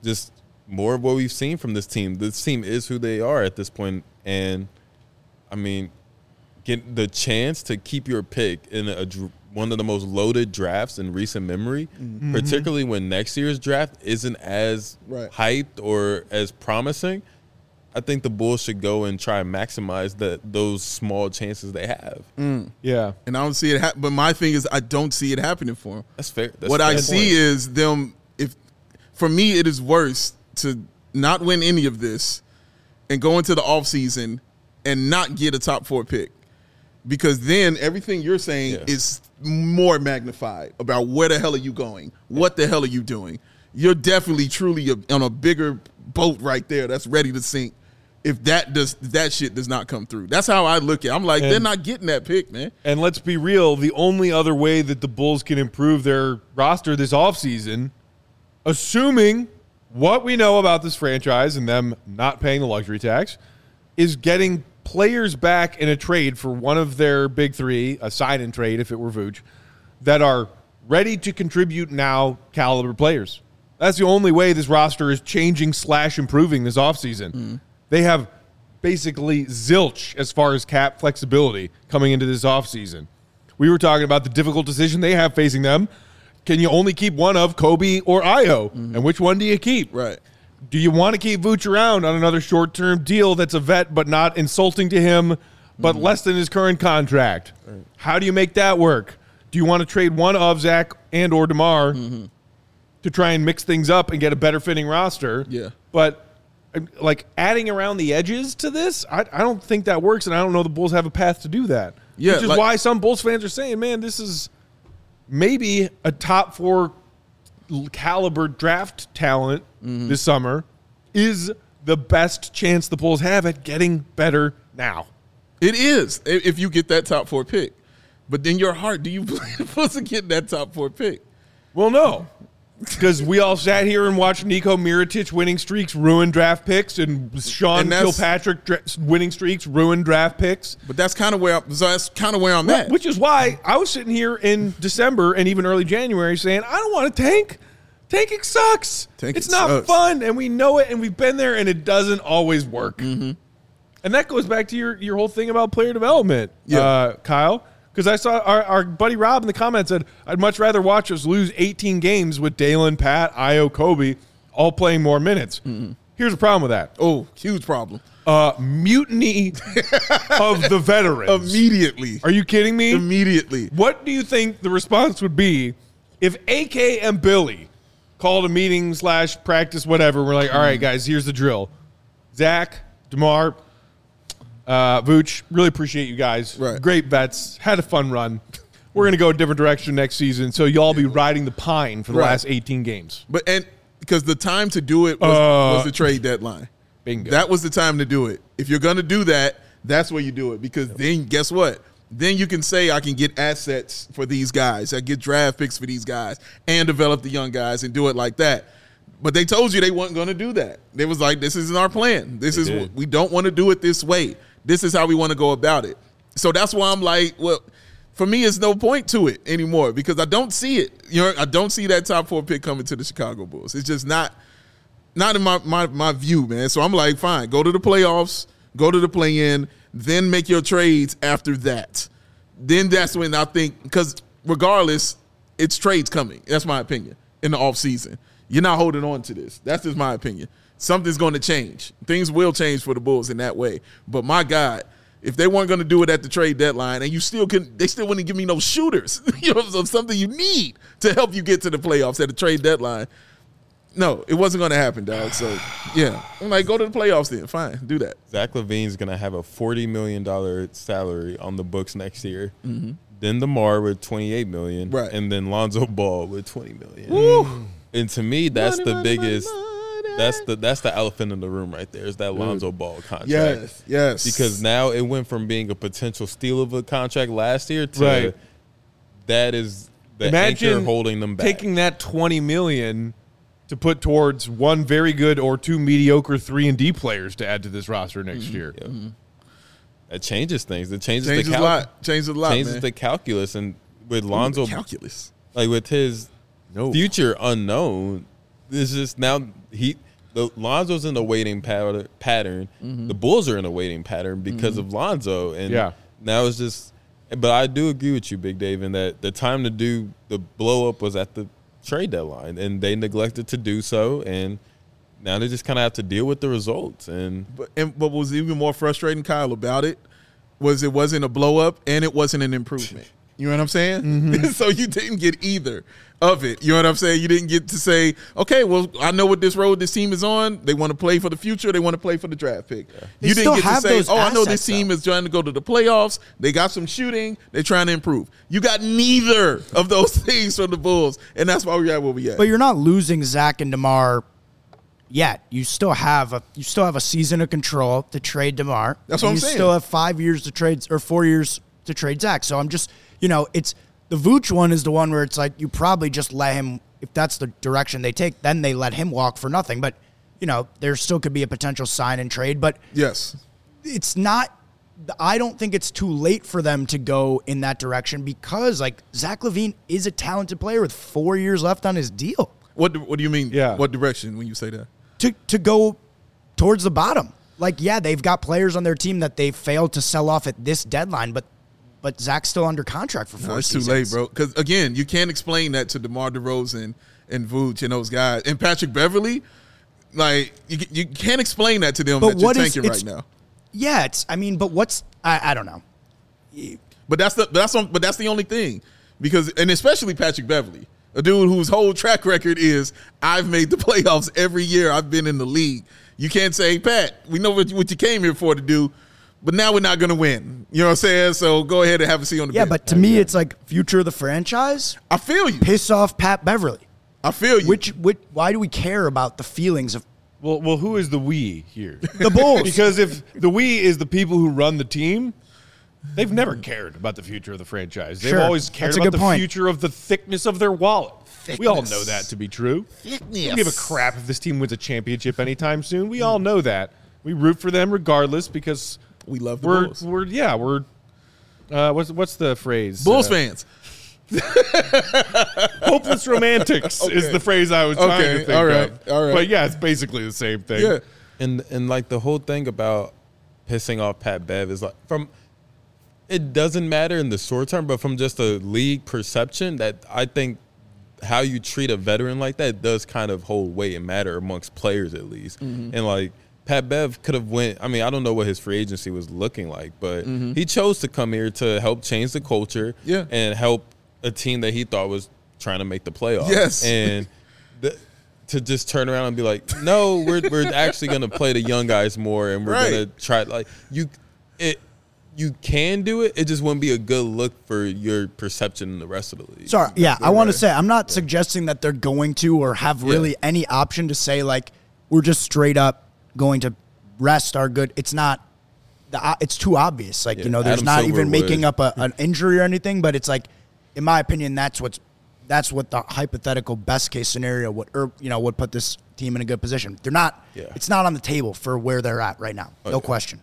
of what we've seen from this team. This team is who they are at this point, and I mean, get the chance to keep your pick in one of the most loaded drafts in recent memory, particularly when next year's draft isn't as hyped or as promising. I think the Bulls should go and try and maximize those small chances they have. Yeah. And I don't see it but my thing is I don't see it happening for them. That's fair. What I see is them for me it is worse to not win any of this and go into the offseason and not get a top 4 pick. Because then everything you're saying is more magnified about where the hell are you going? What the hell are you doing? You're definitely truly on a bigger boat right there that's ready to sink if that shit does not come through. That's how I look at it. I'm like, they're not getting that pick, man. And let's be real, the only other way that the Bulls can improve their roster this offseason, assuming what we know about this franchise and them not paying the luxury tax, is getting players back in a trade for one of their big three, a sign-in trade if it were Vooch, that are ready to contribute now caliber players. That's the only way this roster is changing / improving this offseason. They have basically zilch as far as cap flexibility coming into this offseason. We were talking about the difficult decision they have facing them. Can you only keep one of Kobe or Ayo? And which one do you keep? Right. Do you want to keep Vooch around on another short-term deal that's a vet but not insulting to him, but less than his current contract? Right. How do you make that work? Do you want to trade one of Zach and or DeMar to try and mix things up and get a better-fitting roster? Yeah. But like adding around the edges to this, I don't think that works, and I don't know the Bulls have a path to do that. Yeah, which is why some Bulls fans are saying, man, this is maybe a top 4 caliber draft talent this summer is the best chance the Bulls have at getting better now. It is, if you get that top 4 pick. But then your heart, do you believe the Bulls to get that top 4 pick? Well, no. Because we all sat here and watched Niko Mirotic winning streaks ruin draft picks, and Sean Kilpatrick winning streaks ruin draft picks. But that's kind of where I'm at. Which is why I was sitting here in December and even early January saying, I don't want to tank. Tanking sucks. It's not fun, and we know it, and we've been there, and it doesn't always work. And that goes back to your whole thing about player development, Kyle. Because I saw our buddy Rob in the comments said, I'd much rather watch us lose 18 games with Dalen, Pat, Ayo, Kobe, all playing more minutes. Here's the problem with that. Oh, huge problem. Mutiny of the veterans. Immediately. Are you kidding me? Immediately. What do you think the response would be if AK and Billy called a meeting / practice, whatever? We're like, all right, guys, here's the drill. Zach, DeMar, Vooch, really appreciate you guys. Right. Great vets. Had a fun run. We're going to go a different direction next season, so y'all be riding the pine for the last 18 games. And because the time to do it was the trade deadline. Bingo. That was the time to do it. If you're going to do that, that's where you do it. Because then, guess what? Then you can say, I can get assets for these guys. I get draft picks for these guys and develop the young guys and do it like that. But they told you they weren't going to do that. They was like, this isn't our plan. We don't want to do it this way. This is how we want to go about it. So that's why I'm like, well, for me, it's no point to it anymore because I don't see it. I don't see that top 4 pick coming to the Chicago Bulls. It's just not in my view, man. So I'm like, fine, go to the playoffs, go to the play-in, then make your trades after that. Then that's when I think, because regardless, it's trades coming. That's my opinion in the offseason. You're not holding on to this. That's just my opinion. Something's going to change. Things will change for the Bulls in that way. But my God, if they weren't going to do it at the trade deadline, and they still wouldn't give me no shooters, of something you need to help you get to the playoffs at the trade deadline. No, it wasn't going to happen, dog. So, yeah. I'm like, go to the playoffs then. Fine, do that. Zach LaVine's going to have a $40 million salary on the books next year. Then DeMar with $28 million. Right. And then Lonzo Ball with $20 million. Woo. And to me, that's the biggest that's the elephant in the room right there. Is that Lonzo Ball contract? Yes. Because now it went from being a potential steal of a contract last year to that is the anchor holding them back. Taking that $20 million to put towards one very good or two mediocre 3-and-D players to add to this roster next year. Yeah. That changes things. It changes Changes the a lot. Changes a lot. Changes man. the calculus, and with Lonzo, calculus. like with his future unknown, this is now Lonzo's in a waiting pattern. Mm-hmm. The Bulls are in a waiting pattern because of Lonzo, and now it's just. But I do agree with you, Big Dave, in that the time to do the blow up was at the trade deadline, and they neglected to do so, and now they just kind of have to deal with the results. But what was even more frustrating, Kyle, about it was it wasn't a blow up and it wasn't an improvement. You know what I'm saying? Mm-hmm. So you didn't get either of it. You know what I'm saying? You didn't get to say, okay, well, I know what this road this team is on. They want to play for the future. They want to play for the draft pick. Yeah. You didn't get to say, I know this team is trying to go to the playoffs. They got some shooting. They're trying to improve. You got neither of those things from the Bulls, and that's why we're at where we at. But you're not losing Zach and DeMar yet. You still have a season of control to trade DeMar. That's what I'm saying. You still have 5 years to trade, or 4 years to trade Zach. So I'm just, it's the Vooch one is the one where it's like you probably just let him, if that's the direction they take, then they let him walk for nothing. But, there still could be a potential sign and trade. But yes, it's not, I don't think it's too late for them to go in that direction because, Zach LaVine is a talented player with 4 years left on his deal. What do you mean? Yeah. What direction when you say that? To go towards the bottom. They've got players on their team that they failed to sell off at this deadline, but Zach's still under contract for 4 seasons. It's too late, bro. Because, again, you can't explain that to DeMar DeRozan and Vooch and those guys. And Patrick Beverley, you can't explain that to them that you're tanking right now. Yeah, but what's – I don't know. But that's the only thing. Because – and especially Patrick Beverley, a dude whose whole track record is I've made the playoffs every year I've been in the league. You can't say, Pat, we know what you came here for to do, but now we're not going to win. You know what I'm saying? So go ahead and have a seat on the bench. Yeah, but to me, it's future of the franchise. I feel you. Piss off Pat Beverly. I feel you. Why do we care about the feelings of? Well, who is the we here? The Bulls. Because if the we is the people who run the team, they've never cared about the future of the franchise. They've always cared about the future of the thickness of their wallet. We all know that to be true. Thickness. We don't give a crap if this team wins a championship anytime soon. We all know that. We root for them regardless because we love the Bulls. What's the phrase? Bulls fans. Hopeless romantics is the phrase I was trying to think of. All right. But yeah, it's basically the same thing. Yeah. And the whole thing about pissing off Pat Bev is it doesn't matter in the short term, but from just a league perception, that I think how you treat a veteran like that does kind of hold weight and matter amongst players at least. Mm-hmm. And Pat Bev could have went. I mean, I don't know what his free agency was looking like, but he chose to come here to help change the culture and help a team that he thought was trying to make the playoffs. Yes, and to just turn around and be like, no, we're actually going to play the young guys more, and we're going to try. You can do it. It just wouldn't be a good look for your perception in the rest of the league. Sorry, I want to say I'm not suggesting that they're going to or have really any option to say we're just straight up going to rest our good. It's not. It's too obvious. There's Adam not Silver even making up an injury or anything. But it's in my opinion, that's what the hypothetical best case scenario would put this team in a good position. They're not. Yeah. It's not on the table for where they're at right now. No question.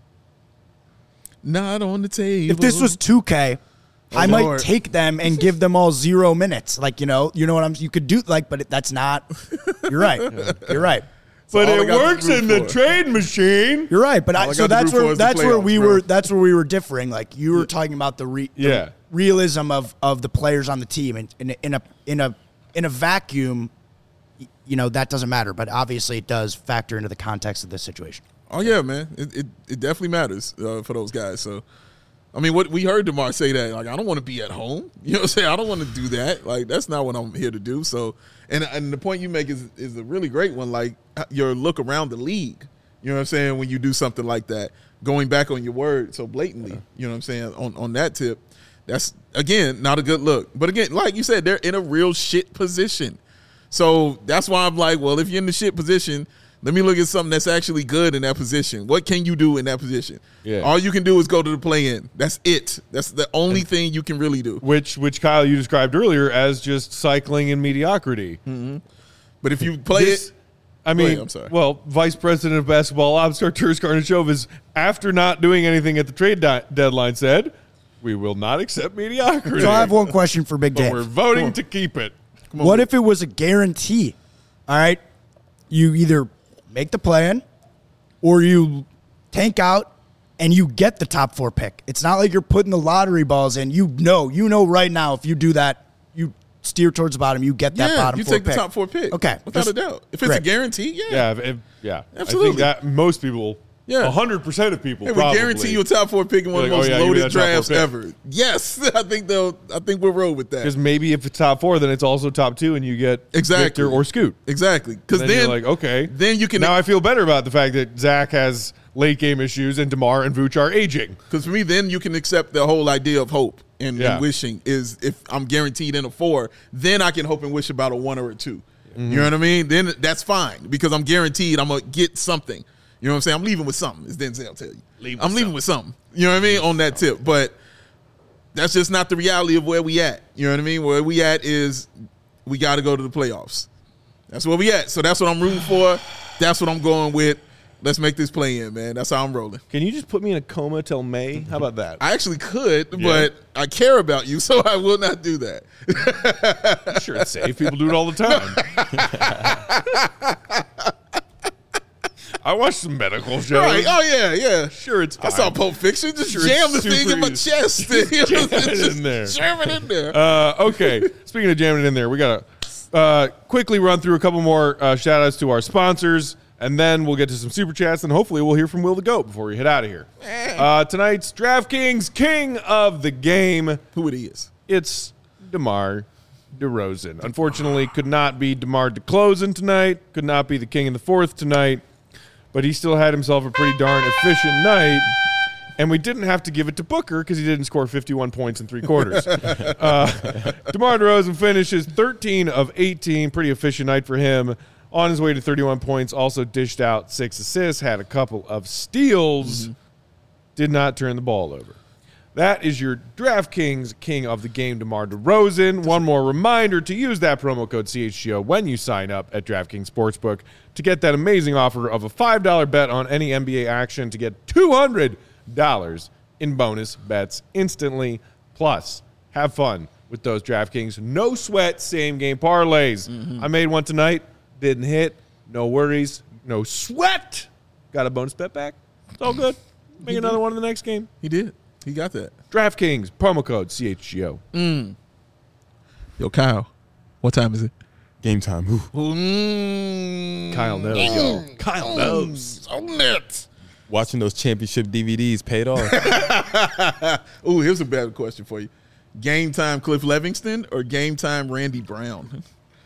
Not on the table. If this was 2K, I might take them and give them all 0 minutes. You know what you could do but that's not. You're right. You're right. But it works in the trade machine. You're right. But that's where we were differing. You were talking about the realism of the players on the team, and in a vacuum, that doesn't matter. But obviously, it does factor into the context of this situation. Oh yeah, man, it definitely matters for those guys. So, I mean, what we heard DeMar say that I don't want to be at home. You know what I'm saying? I don't want to do that. That's not what I'm here to do. So, and the point you make is a really great one. Your look around the league. You know what I'm saying? When you do something like that, going back on your word so blatantly. You know what I'm saying? On that tip, that's again not a good look. But again, like you said, they're in a real shit position. So that's why I'm like, well, if you're in the shit position, let me look at something that's actually good in that position. What can you do in that position? Yeah. All you can do is go to the play-in. That's it. That's the only thing you can really do. Which Kyle, you described earlier as just cycling in mediocrity. But if you play it, I mean, ahead, I'm sorry. Well, Vice President of Basketball Ops, Arturas Karnisovas, after not doing anything at the trade deadline, said, "We will not accept mediocrity." So I have one question for Big but Dave. we're voting to keep it. What if it was a guarantee? All right, you either make the play-in or you tank out and you get the top 4 pick. It's not like you're putting the lottery balls in. You know right now if you do that, you steer towards the bottom, you get that bottom you 4 take pick. the top 4 pick. Okay. Without a doubt. If it's a Great. guarantee, Yeah. Absolutely. I think that most people, Yeah. 100% of people, Hey, we probably guarantee you a top 4 pick in one of the Like, most oh, yeah, give me loaded that top 4 drafts pick. ever. Yes, I think we'll roll with that. Because maybe if it's top 4, then it's also top 2, and you get Exactly. Victor or Scoot. Exactly. Because Then, then you're like, okay, then you can. now I feel better about the fact that Zach has late game issues and DeMar and Vooch are aging. Because for me, then you can accept the whole idea of hope and wishing is if I'm guaranteed in a 4, then I can hope and wish about a 1 or a 2. You know what I mean? Then that's fine because I'm guaranteed I'm going to get something. You know what I'm saying? I'm leaving with something, as Denzel tell you. I'm leaving with something. You know what I mean? On that tip. But that's just not the reality of where we at. You know what I mean? Where we at is we got to go to the playoffs. That's where we at. So that's what I'm rooting for. That's what I'm going with. Let's make this play in, man. That's how I'm rolling. Can you just put me in a coma till May? How about that? I actually could, but I care about you, so I will not do that. I'm sure it's safe. People do it all the time. I watch some medical shows. Right. Oh, yeah. Sure, it's I fine. saw Pulp Fiction. Just Sure, jam the it's thing in my super chest. Jam it in there. Jam it in there. Okay. Speaking of jamming it in there, we got to quickly run through a couple more shout outs to our sponsors, and then we'll get to some super chats, and hopefully we'll hear from Will the Goat before we head out of here. Tonight's DraftKings King of the Game. Who it is? It's DeMar DeRozan. Unfortunately, could not be DeMar DeClozin tonight. Could not be the King in the Fourth tonight. But he still had himself a pretty darn efficient night. And we didn't have to give it to Booker because he didn't score 51 points in 3 quarters. DeMar DeRozan finishes 13 of 18. Pretty efficient night for him. On his way to 31 points. Also dished out 6 assists. Had a couple of steals. Did not turn the ball over. That is your DraftKings King of the Game, DeMar DeRozan. One more reminder to use that promo code CHGO when you sign up at DraftKings Sportsbook to get that amazing offer of a $5 bet on any NBA action to get $200 in bonus bets instantly. Plus, have fun with those DraftKings no sweat same game parlays. I made one tonight, didn't hit, no worries, no sweat. Got a bonus bet back. It's all good. Make another one in the next game. He did. He got that. DraftKings, promo code CHGO. Yo, Kyle, what time is it? Game time. Ooh. Kyle knows, y'all. Kyle knows. So lit. Watching those championship DVDs paid off. Ooh, here's a better question for you. Game time Cliff Livingston or game time Randy Brown?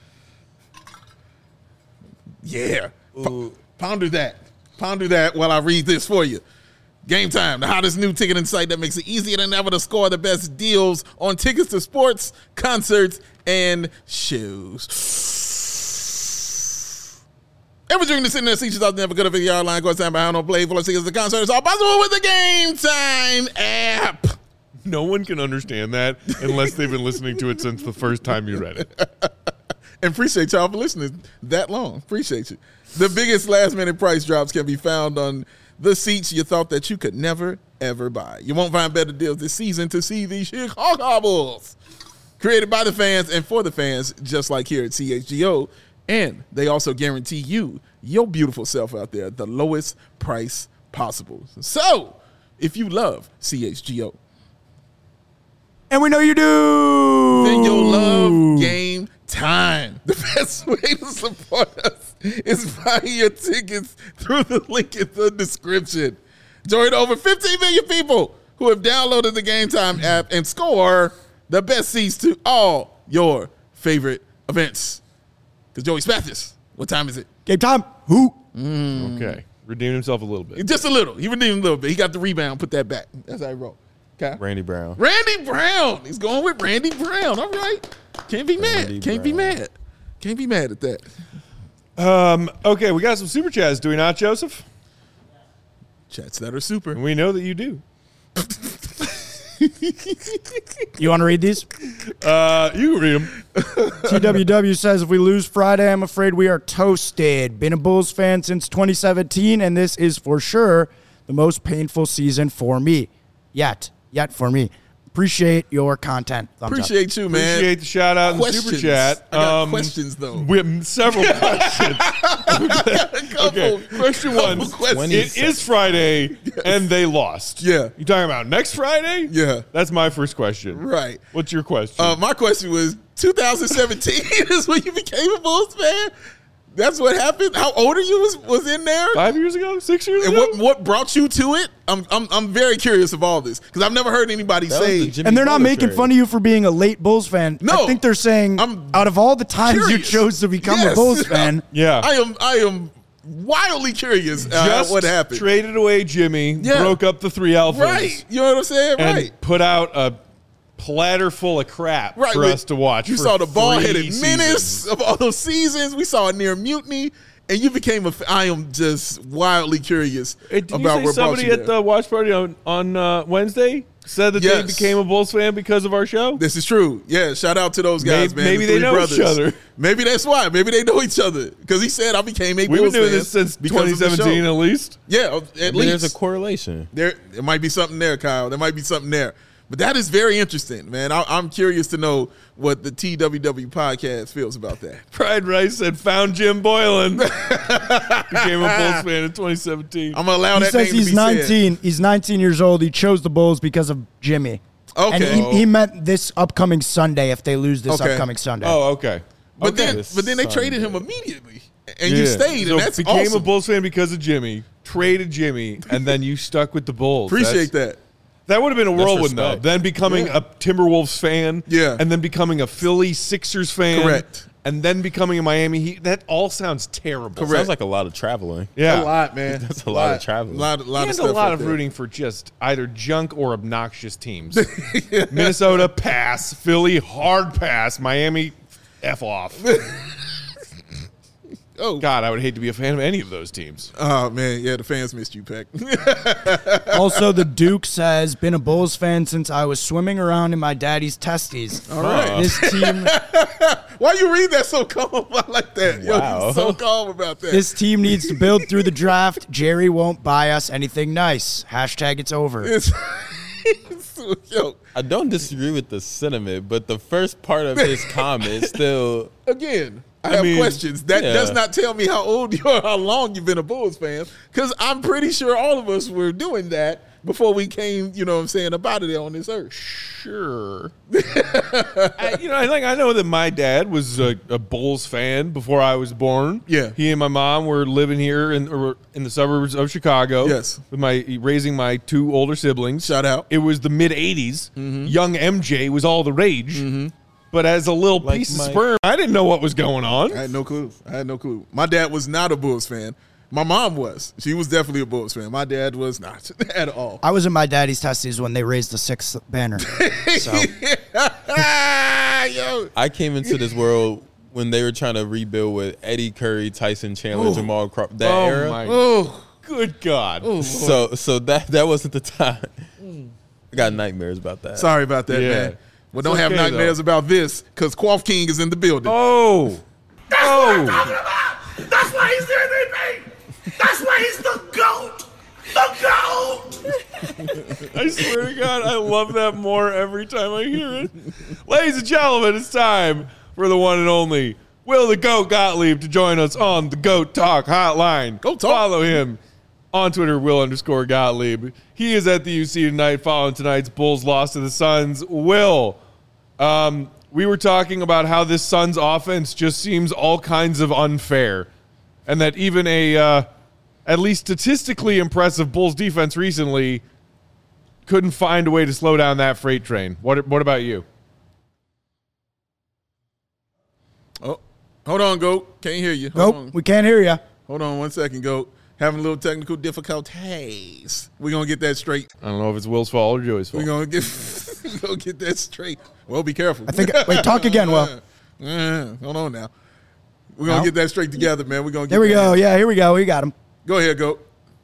Yeah. Ponder that. Ponder that while I read this for you. Game time, the hottest new ticketing site that makes it easier than ever to score the best deals on tickets to sports, concerts, and shows. Ever during the sitting there, see yourself never go to video online, go stand behind on play, full of tickets to concerts, all possible with the Game Time app. No one can understand that unless they've been listening to it since the first time you read it. And appreciate y'all for listening that long. Appreciate you. The biggest last-minute price drops can be found on the seats you thought that you could never, ever buy. You won't find better deals this season to see the Chicago Bulls. Created by the fans and for the fans, just like here at CHGO. And they also guarantee you, your beautiful self out there, the lowest price possible. So, if you love CHGO, And we know you do. then you'll love Game Time. The best way to support us is buying your tickets through the link in the description. Join over 15 million people who have downloaded the Game Time app and score the best seats to all your favorite events. Because Joey Spathis, what time is it? Game time. Who? Okay. Redeemed himself a little bit. Just a little. He redeemed a little bit. He got the rebound, put that back. That's how he rolled. Okay. Randy Brown. Randy Brown. He's going with Randy Brown. All right. Can't be mad. Randy Can't be Brown. mad. Can't be mad at that. Okay, we got some super chats, do we not, Joseph? Chats that are super. We know that you do. You want to read these? You can read them. TWW says, if we lose Friday, I'm afraid we are toasted. Been a Bulls fan since 2017, and this is for sure the most painful season for me. Yet for me. Appreciate your content. Thumbs up. Appreciate you, man. Appreciate the shout out and the super chat. I got questions, though. We have several questions. Okay, question one. It is Friday, and they lost. Yeah. You talking about next Friday? Yeah. That's my first question. Right. What's your question? My question was 2017 is when you became a Bulls fan? That's what happened? How old are you was in there? 5 years ago? 6 years And ago? what brought you to it? I'm very curious of all this because I've never heard anybody That was say. the Jimmy And they're not Butler making trade. fun of you for being a late Bulls fan. No. I think they're saying I'm out of all the times you curious. chose to become Yes. a Bulls fan, Yeah. I am wildly curious Just what happened. traded away Jimmy, Yeah. broke up the three alphas. Right. You know what I'm saying? And Right. put out a platter full of crap Right. for us to watch. You for saw the ball 3 headed menace seasons. of all those seasons. We saw a near mutiny. And you became I am just wildly curious Hey, did about you say what brought somebody you at there. the watch party on Wednesday said that they Yes. became a Bulls fan because of our show? This is true. Yeah, shout out to those guys, man. Maybe the they three know each brothers. other. Maybe that's why. Maybe they know each other. Because he said I became a We've been Bulls doing fan this since because of the 2017 show. at least. Yeah, at least. There's a correlation. There might be something there, Kyle. There might be something there. But that is very interesting, man. I'm curious to know what the TWW podcast feels about that. Pride Rice said, found Jim Boylan. Became a Bulls fan in 2017. I'm going to allow he that says name he's to be 19. He's 19 years old. He chose the Bulls because of Jimmy. Okay. And he meant this upcoming Sunday if they lose this Okay. upcoming Sunday. Oh, okay. But Okay. then they traded him immediately. And you stayed, So and that's became awesome. a Bulls fan because of Jimmy, traded Jimmy, and then you stuck with the Bulls. Appreciate that. That would have been a whirlwind, though. respect. Then becoming Yeah. a Timberwolves fan, Yeah. and then becoming a Philly Sixers fan, Correct. and then becoming a Miami Heat. That all sounds terrible. Correct. Sounds like a lot of traveling. Yeah, A lot, man. That's a lot of traveling. lot and of a stuff lot right of there. rooting for just either junk or obnoxious teams. Minnesota, pass. Philly, hard pass. Miami, F off. Oh, God, I would hate to be a fan of any of those teams. oh man, yeah, the fans missed you, Peck. Also, the Duke says, been a Bulls fan since I was swimming around in my daddy's testes. All right. This team Why you read that so calm? I like that. Yo, Wow. you so calm about that. this team needs to build through the draft. Jerry won't buy us anything nice. Hashtag it's over. It's- yo, I don't disagree with the sentiment, but the first part of his comment still. again, I have mean, questions. That yeah. does not tell me how old you are, how long you've been a Bulls fan, because I'm pretty sure all of us were doing that before we came, you know what I'm saying, about it on this earth. Sure. I know that my dad was a Bulls fan before I was born. Yeah. He and my mom were living here in the suburbs of Chicago. Yes. With raising my two older siblings. Shout out. It was the mid '80s. Mm-hmm. Young MJ was all the rage. But as a little Like piece of Mike. sperm, I didn't know what was going on. I had no clue. My dad was not a Bulls fan. My mom was. She was definitely a Bulls fan. My dad was not at all. I was in my daddy's testes when they raised the 6th banner. So Yo. I came into this world when they were trying to rebuild with Eddie Curry, Tyson Chandler, Jamal Crawford. That Oh era. my Oh, good God. So that wasn't the time. I got nightmares about that. sorry about that, Yeah. man. Well, don't It's have okay, nightmares about this because Quaff King is in the building. Oh. Oh. That's why he's the MVP. That's why he's the GOAT. The GOAT. I swear to God, I love that more every time I hear it. Ladies and gentlemen, it's time for the one and only Will the GOAT Gottlieb to join us on the GOAT Talk Hotline. Go Talk. Follow him on Twitter, Will_Gottlieb. He is at the UC tonight following tonight's Bulls loss to the Suns. Will, we were talking about how this Suns offense just seems all kinds of unfair, and that even a at least statistically impressive Bulls defense recently couldn't find a way to slow down that freight train. What about you? Oh, hold on, Goat. Can't hear you. Hold nope, we can't hear you. Hold on 1 second, Goat. Having a little technical difficulties. We're going to get that straight. I don't know if it's Will's fault or Joey's fault. We're going to get that straight. Well, be careful. I think. Wait, talk again, Will. Hold on now. We're going to No? get that straight together, man. We're going to get There we that go. answer. Yeah, here we go. We got him. Go ahead, go.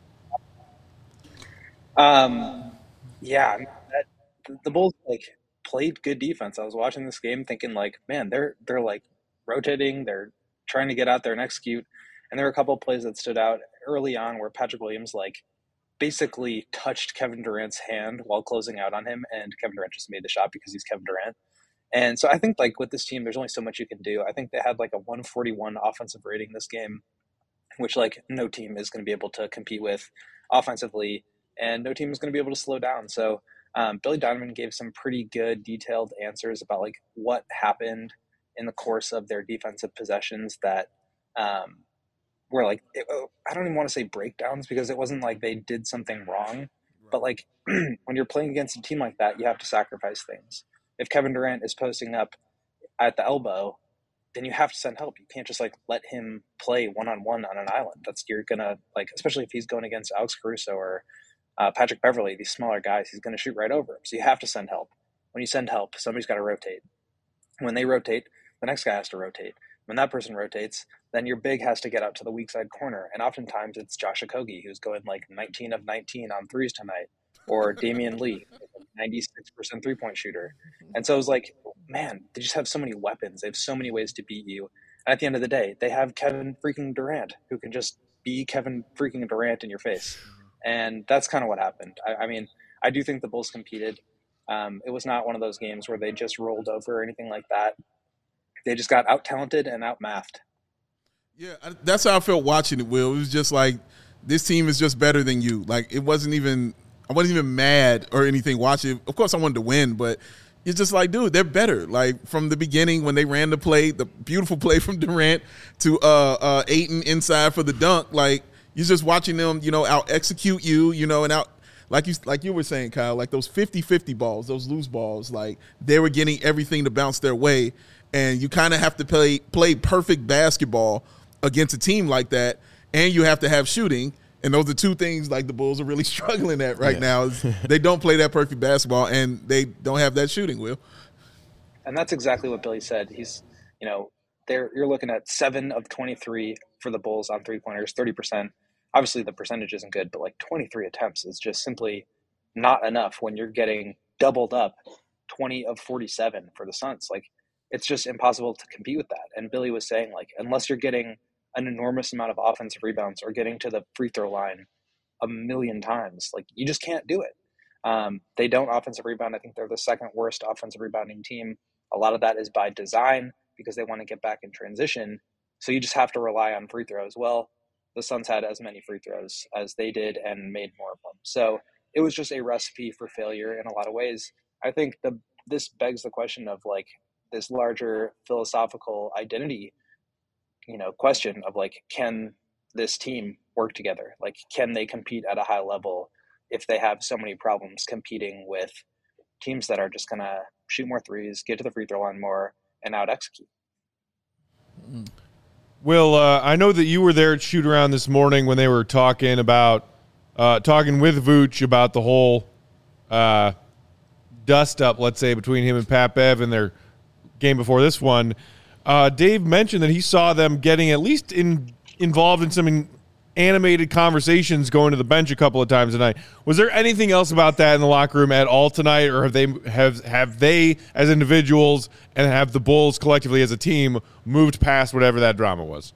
Yeah, the Bulls like played good defense. I was watching this game thinking like, man, they're like rotating, they're trying to get out there and execute. And there were a couple of plays that stood out early on where Patrick Williams like basically touched Kevin Durant's hand while closing out on him, and Kevin Durant just made the shot because he's Kevin Durant. And so I think like with this team, there's only so much you can do. I think they had like a 141 offensive rating this game, which like no team is going to be able to compete with offensively, and no team is going to be able to slow down. So Billy Donovan gave some pretty good detailed answers about like what happened in the course of their defensive possessions that were like, I don't even want to say breakdowns because it wasn't like they did something wrong, but like when you're playing against a team like that, you have to sacrifice things. If Kevin Durant is posting up at the elbow, then you have to send help. You can't just like let him play one-on-one on an island. You're gonna like, especially if he's going against Alex Caruso or Patrick Beverly, these smaller guys, he's gonna shoot right over him. So you have to send help. When you send help, somebody's got to rotate. When they rotate, the next guy has to rotate. When that person rotates, then your big has to get out to the weak side corner. And oftentimes it's Josh Okogie, who's going like 19 of 19 on threes tonight, or Damian Lee, 96% three-point shooter. And so it was like, man, they just have so many weapons. They have so many ways to beat you. And at the end of the day, they have Kevin freaking Durant, who can just be Kevin freaking Durant in your face. And that's kind of what happened. I mean, I do think the Bulls competed. It was not one of those games where they just rolled over or anything like that. They just got out-talented and out-mathed. Yeah, that's how I felt watching it, Will. It was just like, this team is just better than you. Like, I wasn't even mad or anything watching it. Of course, I wanted to win, but it's just like, dude, they're better. Like, from the beginning when they ran the play, the beautiful play from Durant to Ayton inside for the dunk, like, you're just watching them, out-execute you, and out – like you were saying, Kyle, like those 50-50 balls, those loose balls, like they were getting everything to bounce their way. And you kind of have to play perfect basketball against a team like that, and you have to have shooting. And those are two things like the Bulls are really struggling at right now. They don't play that perfect basketball, and they don't have that shooting, Will. And that's exactly what Billy said. He's, you're looking at 7 of 23 for the Bulls on three-pointers, 30%. Obviously, the percentage isn't good, but like 23 attempts is just simply not enough when you're getting doubled up 20 of 47 for the Suns. Like, it's just impossible to compete with that. And Billy was saying, like, unless you're getting an enormous amount of offensive rebounds or getting to the free throw line a million times, like, you just can't do it. They don't offensive rebound. I think they're the second worst offensive rebounding team. A lot of that is by design because they want to get back in transition. So you just have to rely on free throws. Well, the Suns had as many free throws as they did and made more of them. So it was just a recipe for failure in a lot of ways. I think this begs the question of like, this larger philosophical identity, question of like, can this team work together? Like, can they compete at a high level if they have so many problems competing with teams that are just going to shoot more threes, get to the free throw line more, and out execute? Will, I know that you were there at shoot around this morning when they were talking with Vooch about the whole dust up, let's say, between him and Pat Bev and their game before this one. Dave mentioned that he saw them getting at least involved in some animated conversations going to the bench a couple of times tonight. Was there anything else about that in the locker room at all tonight, or have they as individuals and have the Bulls collectively as a team moved past whatever that drama was?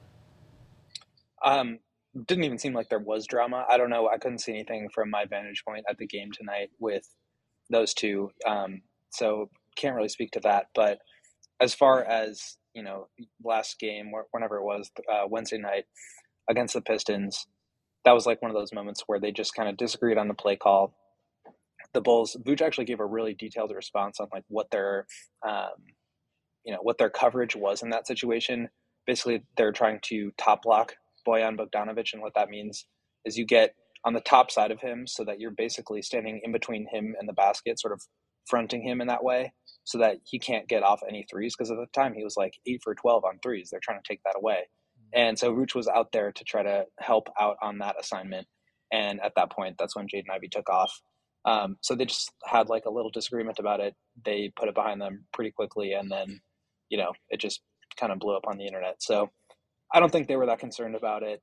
Didn't even seem like there was drama. I don't know. I couldn't see anything from my vantage point at the game tonight with those two. So can't really speak to that. But as far as, last game, whenever it was, Wednesday night against the Pistons, that was like one of those moments where they just kind of disagreed on the play call. The Bulls, Vooch actually gave a really detailed response on like what their coverage was in that situation. Basically, they're trying to top block Bojan Bogdanovic, and what that means is you get on the top side of him so that you're basically standing in between him and the basket, sort of fronting him in that way so that he can't get off any threes, because at the time he was like 8 for 12 on threes. They're trying to take that away. And so Vooch was out there to try to help out on that assignment. And at that point, that's when Jaden Ivey took off. So they just had like a little disagreement about it. They put it behind them pretty quickly, and then, it just kind of blew up on the internet. So I don't think they were that concerned about it.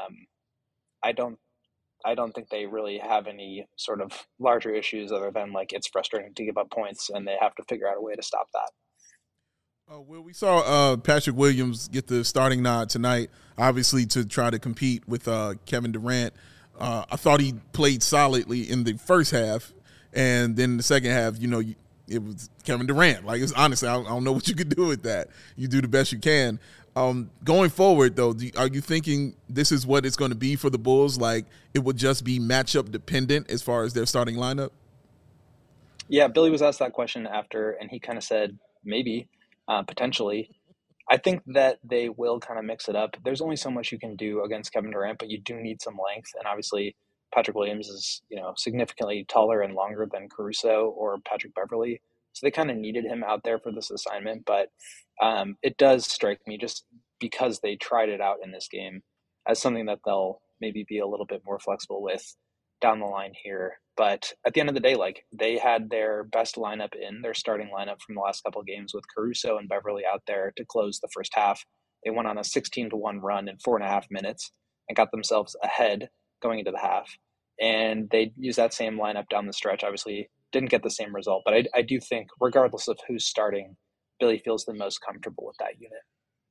I don't think they really have any sort of larger issues other than like it's frustrating to give up points and they have to figure out a way to stop that. Well, we saw Patrick Williams get the starting nod tonight, obviously to try to compete with Kevin Durant. I thought he played solidly in the first half, and then in the second half, it was Kevin Durant. Like, it's honestly, I don't know what you could do with that. You do the best you can. Going forward, though, are you thinking this is what it's going to be for the Bulls? Like, it would just be matchup dependent as far as their starting lineup? Yeah, Billy was asked that question after, and he kind of said maybe, potentially. I think that they will kind of mix it up. There's only so much you can do against Kevin Durant, but you do need some length. And obviously, Patrick Williams is, significantly taller and longer than Caruso or Patrick Beverly. So they kind of needed him out there for this assignment. But it does strike me, just because they tried it out in this game, as something that they'll maybe be a little bit more flexible with down the line here. But at the end of the day, like, they had their best lineup in their starting lineup from the last couple of games with Caruso and Beverly out there to close the first half. They went on a 16-1 run in 4.5 minutes and got themselves ahead going into the half. And they used that same lineup down the stretch. Obviously didn't get the same result, but I do think regardless of who's starting, Billy feels the most comfortable with that unit.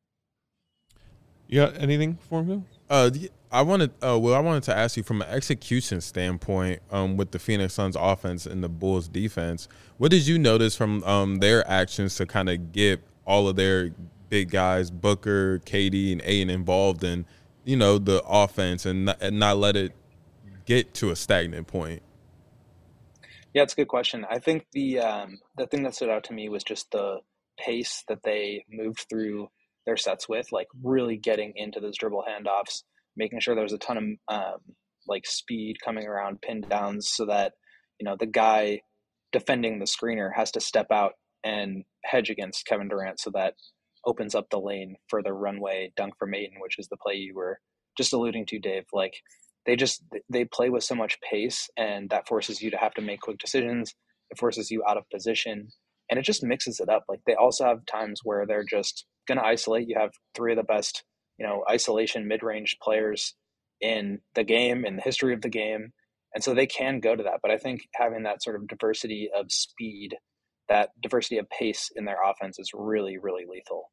You got anything for him? I wanted to ask you from an execution standpoint, with the Phoenix Suns offense and the Bulls defense, what did you notice from their actions to kind of get all of their big guys, Booker, KD, and Ayton, involved in, the offense and not let it get to a stagnant point? Yeah, it's a good question. I think the thing that stood out to me was just the pace that they moved through their sets with, like really getting into those dribble handoffs, making sure there was a ton of speed coming around pin downs so that, the guy defending the screener has to step out and hedge against Kevin Durant, so that opens up the lane for the runway dunk from Ayton, which is the play you were just alluding to, Dave. Like, they play with so much pace, and that forces you to have to make quick decisions. It forces you out of position, and it just mixes it up. Like, they also have times where they're just going to isolate. You have three of the best, isolation mid-range players in the game, in the history of the game. And so they can go to that. But I think having that sort of diversity of speed, that diversity of pace in their offense is really, really lethal.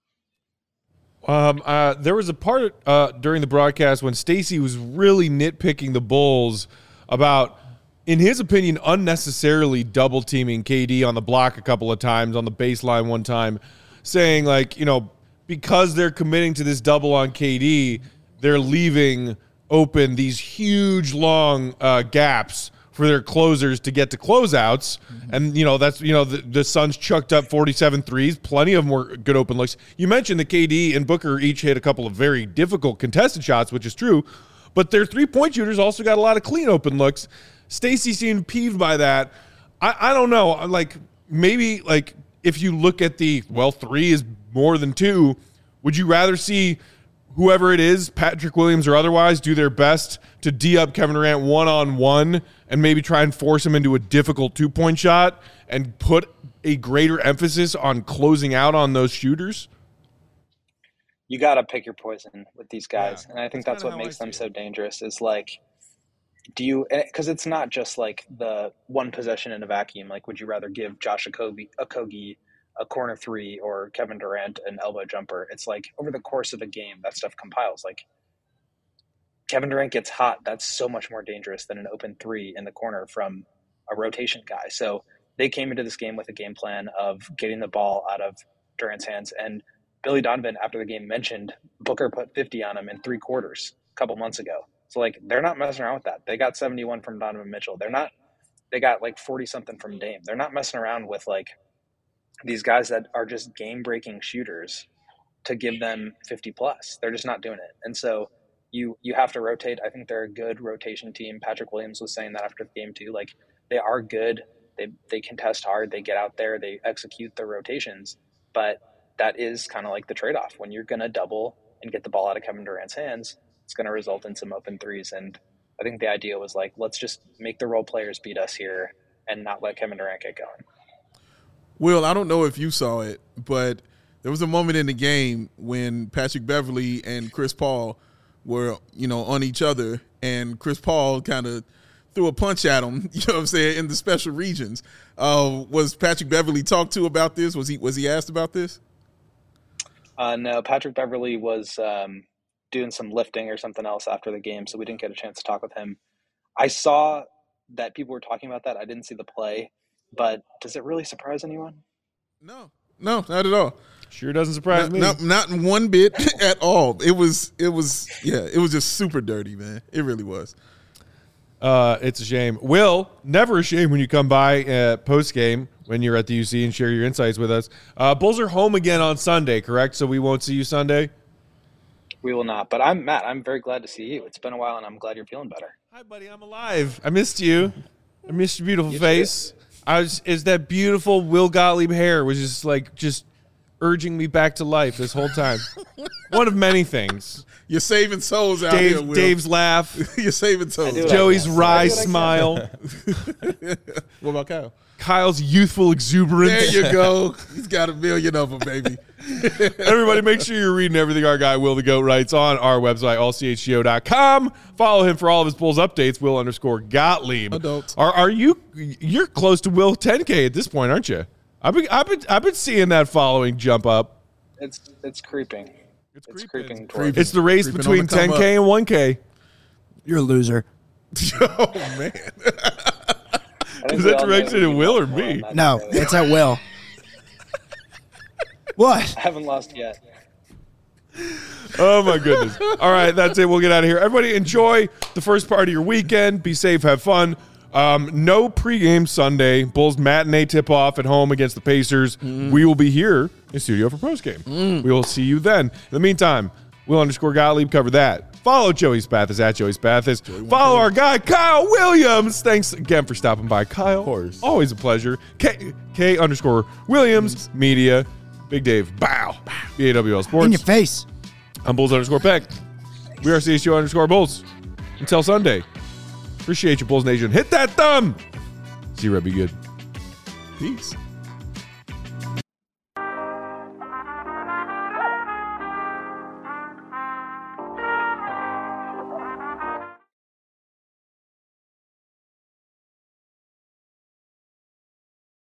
There was a part during the broadcast when Stacey was really nitpicking the Bulls about, in his opinion, unnecessarily double teaming KD on the block a couple of times, on the baseline one time, saying because they're committing to this double on KD, they're leaving open these huge long gaps for their closers to get to closeouts. And, that's, the Suns chucked up 47 threes. Plenty of them were good open looks. You mentioned that KD and Booker each hit a couple of very difficult contested shots, which is true, but their three-point shooters also got a lot of clean open looks. Stacey seemed peeved by that. I don't know. Maybe if you look at three is more than two, would you rather see whoever it is, Patrick Williams or otherwise, do their best to D up Kevin Durant one-on-one and maybe try and force him into a difficult two-point shot and put a greater emphasis on closing out on those shooters? You got to pick your poison with these guys. Yeah, and I think that's what makes them so dangerous is because it's not just the one possession in a vacuum. Would you rather give Josh Okogie a corner three or Kevin Durant an elbow jumper? It's over the course of a game, that stuff compiles. Kevin Durant gets hot. That's so much more dangerous than an open three in the corner from a rotation guy. So they came into this game with a game plan of getting the ball out of Durant's hands. And Billy Donovan, after the game, mentioned Booker put 50 on him in 3 quarters a couple months ago. So they're not messing around with that. They got 71 from Donovan Mitchell. They got 40 something from Dame. They're not messing around with these guys that are just game-breaking shooters to give them 50-plus. They're just not doing it. And so you have to rotate. I think they're a good rotation team. Patrick Williams was saying that after the game too. They are good. They contest hard. They get out there. They execute their rotations. But that is kind of the trade-off. When you're going to double and get the ball out of Kevin Durant's hands, it's going to result in some open threes. And I think the idea was let's just make the role players beat us here and not let Kevin Durant get going. Will, I don't know if you saw it, but There was a moment in the game when Patrick Beverley and Chris Paul were, on each other, and Chris Paul kind of threw a punch at him, you know what I'm saying, in the special regions. Was Patrick Beverley talked to about this? Was he asked about this? No, Patrick Beverley was doing some lifting or something else after the game, so we didn't get a chance to talk with him. I saw that people were talking about that. I didn't see the play, but does it really surprise anyone? No, not at all. Sure doesn't surprise me. Not in one bit at all. It was just super dirty, man. It really was. It's a shame. Will, never a shame when you come by post game when you're at the UC and share your insights with us. Bulls are home again on Sunday, correct? So we won't see you Sunday? We will not. But I'm Matt. I'm very glad to see you. It's been a while, and I'm glad you're feeling better. Hi, buddy. I'm alive. I missed you. I missed your beautiful face. Is that beautiful Will Gottlieb hair was just urging me back to life this whole time. One of many things. You're saving souls out here, Will. Dave's laugh. You're saving souls. Joey's wry smile. What about Kyle? Kyle's youthful exuberance. There you go. He's got a million of them, baby. Everybody, make sure you're reading everything our guy Will the Goat writes on our website, allchgo.com. Follow him for all of his Bulls updates, Will_Gottlieb. Adults. You're close to Will 10K at this point, aren't you? I've been seeing that following jump up. It's creeping. It's creeping. It's the race between 10K and 1K. You're a loser. Oh, man. Is that directed at Will or me? No, it's at Will. What? I haven't lost yet. Oh, my goodness. All right, that's it. We'll get out of here. Everybody enjoy the first part of your weekend. Be safe. Have fun. No pregame Sunday. Bulls matinee tip-off at home against the Pacers. We will be here in studio for postgame. We will see you then. In the meantime, Will_Gottlieb cover that. Follow Joey Spathis at Joey Spathis. Follow our guy, Kyle Williams. Thanks again for stopping by, Kyle. Of course. Always a pleasure. K_Williams Media. Big Dave. Bow. BAWL Sports. In your face. I'm Bulls_Peck. We are CHGO_Bulls. Until Sunday. Appreciate you, Bulls Nation. Hit that thumb. See you, Red. Be good. Peace.